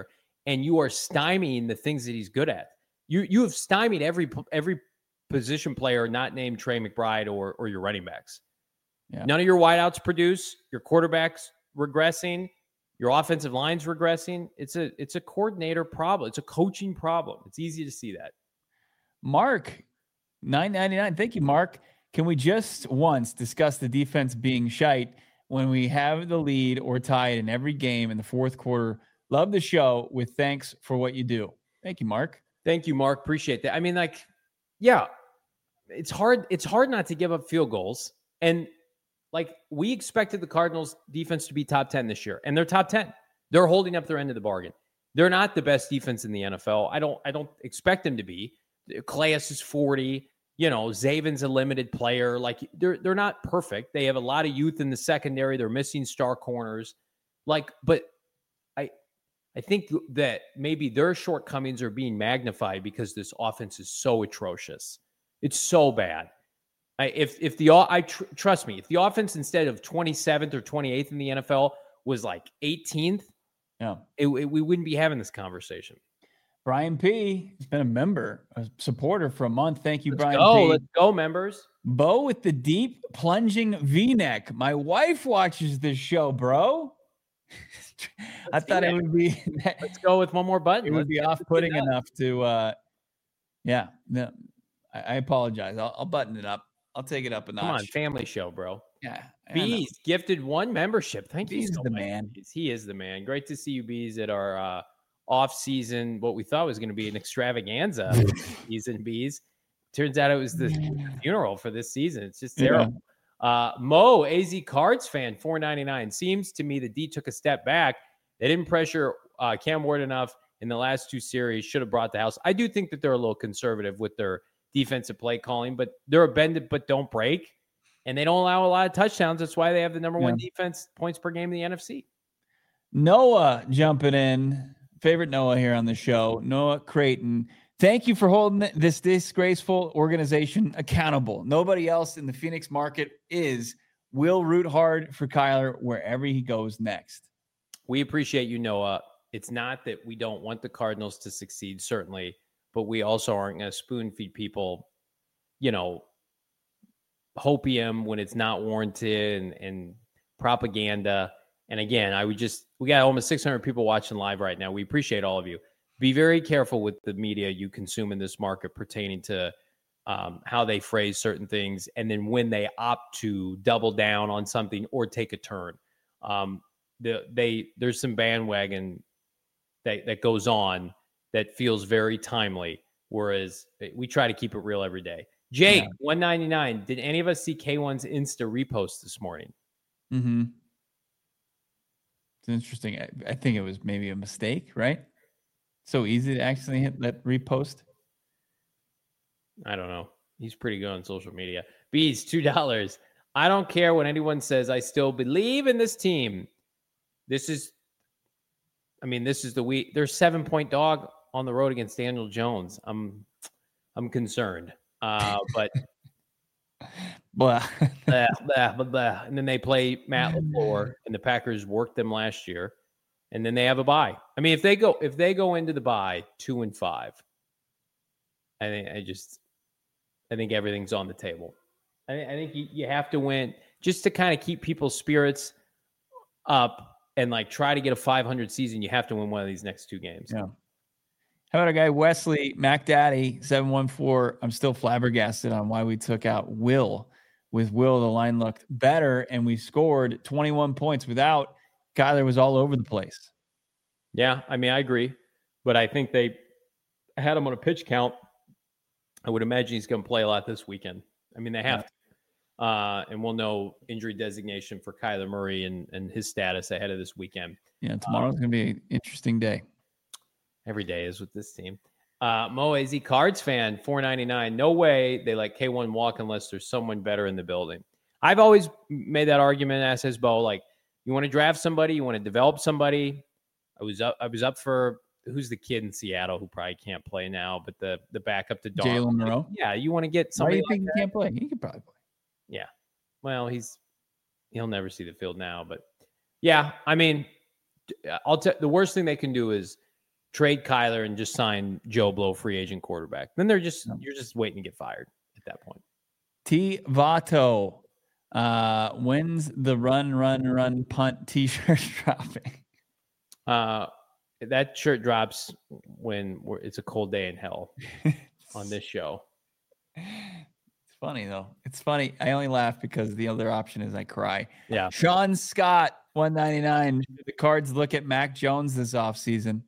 and you are stymieing the things that he's good at. You you have stymied every every position player not named Trey McBride or or your running backs. Yeah. None of your wideouts produce. Your quarterback's regressing. Your offensive line's regressing. It's a it's a coordinator problem. It's a coaching problem. It's easy to see that. Mark, nine ninety-nine. Thank you, Mark. Can we just once discuss the defense being shite when we have the lead or tied in every game in the fourth quarter? Love the show with thanks for what you do. Thank you, Mark. Thank you, Mark. Appreciate that. I mean, like, yeah, it's hard. It's hard not to give up field goals. And like, we expected the Cardinals defense to be top ten this year, and they're top ten. They're holding up their end of the bargain. They're not the best defense in the N F L. I don't, I don't expect them to be. Calais is forty. You know, Zaven's a limited player. Like, they're they're not perfect. They have a lot of youth in the secondary. They're missing star corners. Like, but I I think that maybe their shortcomings are being magnified because this offense is so atrocious. It's so bad. I, if if the I tr- trust me, if the offense instead of twenty-seventh or twenty-eighth in the N F L was like eighteenth, yeah, it, it, we wouldn't be having this conversation. Brian P. has been a member, a supporter for a month. Thank you, let's Brian go, P. Let's go, members. Bo with the deep plunging V-neck. My wife watches this show, bro. I thought it would be. Let's go with one more button. It would let's be off-putting enough to. Uh, yeah, no, I, I apologize. I'll, I'll button it up. I'll take it up a notch. Come on, family show, bro. Yeah. Bees gifted one membership. Thank Bees you so is the much. man. He is the man. Great to see you, Bees, at our uh, off-season, what we thought was going to be an extravaganza season, Bees. Turns out it was the funeral for this season. It's just terrible. Yeah. Uh, Mo, A Z Cards fan, four ninety-nine. Seems to me the D took a step back. They didn't pressure uh, Cam Ward enough in the last two series. Should have brought the house. I do think that they're a little conservative with their defensive play calling, but they're a bend it but don't break, and they don't allow a lot of touchdowns. That's why they have the number one yeah. defense points per game in the N F C. Noah jumping in. Favorite Noah here on the show, Noah Creighton. Thank you for holding this disgraceful organization accountable. Nobody else in the Phoenix market is. We'll root hard for Kyler wherever he goes next. We appreciate you, Noah. It's not that we don't want the Cardinals to succeed, certainly, but we also aren't going to spoon feed people, you know, hopium when it's not warranted and, and propaganda. And again, I would just, we got almost six hundred people watching live right now. We appreciate all of you. Be very careful with the media you consume in this market pertaining to um, how they phrase certain things. And then when they opt to double down on something or take a turn, um, the, they, there's some bandwagon that, that goes on that feels very timely. Whereas we try to keep it real every day. Jake, yeah. one ninety-nine. Did any of us see K one's Insta repost this morning? Mm-hmm. It's interesting. I, I think it was maybe a mistake, right? So easy to actually hit that repost. I don't know. He's pretty good on social media. Bees, two dollars. I don't care what anyone says. I still believe in this team. This is, I mean, this is the week. There's seven point dog on the road against Daniel Jones. I'm, I'm concerned. Uh, but blah. blah, blah, blah, blah. And then they play Matt LaFleur, and the Packers worked them last year. And then they have a bye. I mean, if they go if they go into the bye two and five, I think I just I think everything's on the table. I, I think you, you have to win just to kind of keep people's spirits up and like try to get a five hundred season. You have to win one of these next two games. Yeah. How about a guy Wesley Mac Daddy seven one four? I'm still flabbergasted on why we took out Will. With Will, the line looked better, and we scored twenty-one points without. Kyler was all over the place. Yeah, I mean, I agree. But I think they had him on a pitch count. I would imagine he's going to play a lot this weekend. I mean, they have yeah. to. Uh, and we'll know injury designation for Kyler Murray and, and his status ahead of this weekend. Yeah, tomorrow's um, going to be an interesting day. Every day is with this team. Uh, Mo A Z Cards fan, four ninety-nine. No way they let K one walk unless there's someone better in the building. I've always made that argument, as has Bo, like, you want to draft somebody, you want to develop somebody. I was up. I was up for who's the kid in Seattle who probably can't play now, but the the backup to Jalen Monroe. Yeah, you want to get somebody. Why do you like think that? He can't play? He could probably play. Yeah. Well, he's he'll never see the field now, but yeah, I mean, I'll tell the worst thing they can do is trade Kyler and just sign Joe Blow, free agent quarterback. Then they're just you're just waiting to get fired at that point. T Vato, uh, when's the run, run, run, punt T-shirt dropping? Uh, that shirt drops when we're, it's a cold day in hell on this show. It's funny though. It's funny. I only laugh because the other option is I cry. Yeah. Sean Scott, one ninety-nine. Should the Cards look at Mac Jones this offseason?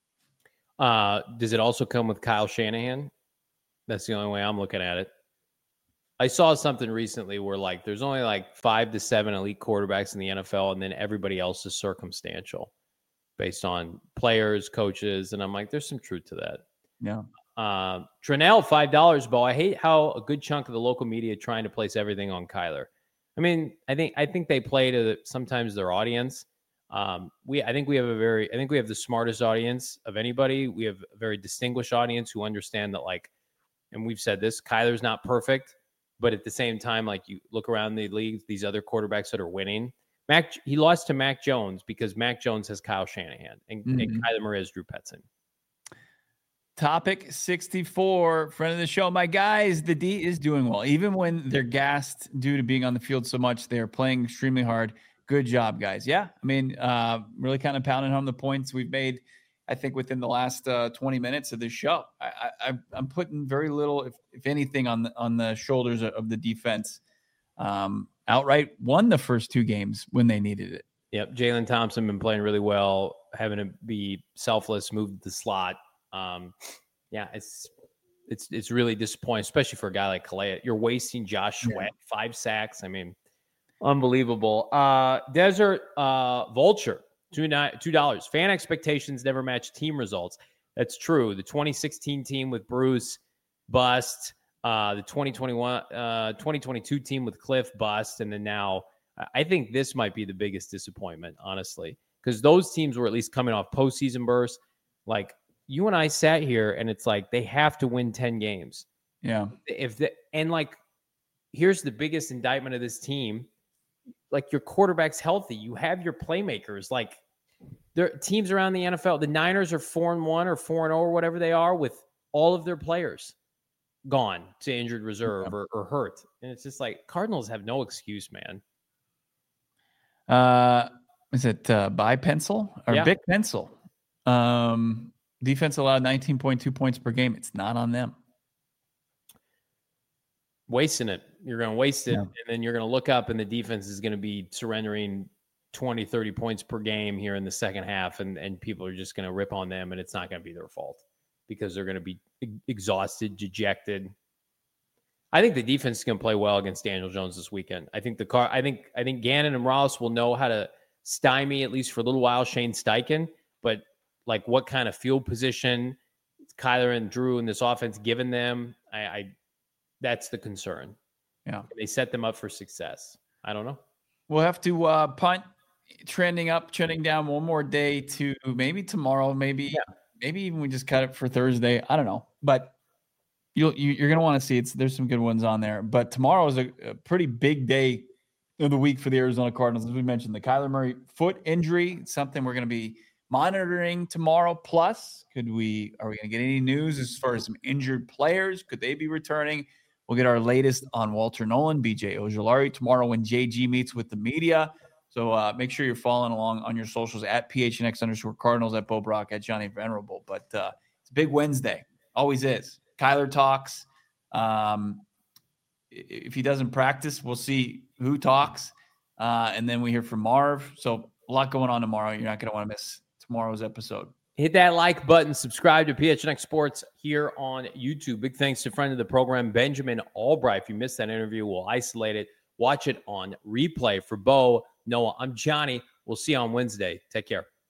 Uh, does it also come with Kyle Shanahan? That's the only way I'm looking at it. I saw something recently where like there's only like five to seven elite quarterbacks in the N F L, and then everybody else is circumstantial based on players, coaches, and I'm like, there's some truth to that. Yeah. Uh, Trinell, five dollars, Bo. I hate how a good chunk of the local media trying to place everything on Kyler. I mean, I think I think they play to sometimes their audience. Um, we I think we have a very I think we have the smartest audience of anybody. We have a very distinguished audience who understand that, like, and we've said this, Kyler's not perfect, but at the same time, like, you look around the league, these other quarterbacks that are winning. Mac he lost to Mac Jones because Mac Jones has Kyle Shanahan and, mm-hmm. and Kyler Murray has Drew Petzing. Topic sixty-four, friend of the show. My guys, the D is doing well. Even when they're gassed due to being on the field so much, they're playing extremely hard. Good job, guys. Yeah, I mean, uh, really kind of pounding home the points we've made, I think, within the last uh, twenty minutes of this show. I, I, I'm putting very little, if, if anything, on the, on the shoulders of the defense. Um, outright won the first two games when they needed it. Yep, Jalen Thompson been playing really well, having to be selfless, move the slot. Um, yeah, it's it's it's really disappointing, especially for a guy like Calais. You're wasting Josh Sweat, yeah. five sacks. I mean, unbelievable. Uh, Desert uh, Vulture, two two dollars. Fan expectations never match team results. That's true. The twenty sixteen team with Bruce, bust. Uh, the twenty twenty-one, uh, twenty twenty-two team with Cliff, bust, and then now I think this might be the biggest disappointment, honestly, because those teams were at least coming off postseason bursts. Like, you and I sat here and it's like, they have to win ten games. Yeah. If the, and like, here's the biggest indictment of this team. Like, your quarterback's healthy. You have your playmakers. Like, there teams around the N F L, the Niners are four and one or four and oh or whatever they are with all of their players gone to injured reserve yeah. or, or hurt. And it's just like, Cardinals have no excuse, man. Uh, is it uh, by pencil or yeah. Big Pencil? Um, Defense allowed nineteen point two points per game. It's not on them. Wasting it. You're going to waste it. Yeah. And then you're going to look up and the defense is going to be surrendering twenty, thirty points per game here in the second half. And, and people are just going to rip on them and it's not going to be their fault because they're going to be exhausted, dejected. I think the defense is going to play well against Daniel Jones this weekend. I think the car, I think, I think Gannon and Ross will know how to stymie, at least for a little while, Shane Steichen, but like, what kind of field position Kyler and Drew in this offense given them? I, I that's the concern. Yeah, they set them up for success. I don't know. We'll have to uh, punt, trending up, trending down one more day to maybe tomorrow, maybe yeah. maybe even we just cut it for Thursday. I don't know, but you'll you, you're gonna want to see it's there's some good ones on there. But tomorrow is a, a pretty big day of the week for the Arizona Cardinals, as we mentioned. The Kyler Murray foot injury, something we're gonna be monitoring tomorrow. Plus, could we are we going to get any news as far as some injured players? Could they be returning? We'll get our latest on Walter Nolan, B J Ojulari tomorrow when J G meets with the media. So uh, make sure you're following along on your socials at P H N X underscore Cardinals, at Bo Brock, at Johnny Venerable. But uh, it's a big Wednesday. Always is. Kyler talks. Um, if he doesn't practice, we'll see who talks. Uh, and then we hear from Marv. So a lot going on tomorrow. You're not going to want to miss tomorrow's episode. Hit that like button, subscribe to P H N X Sports here on YouTube. Big thanks to friend of the program, Benjamin Albright. If you missed that interview, we'll isolate it. Watch it on replay. For Bo, Noah, I'm Johnny. We'll see you on Wednesday. Take care.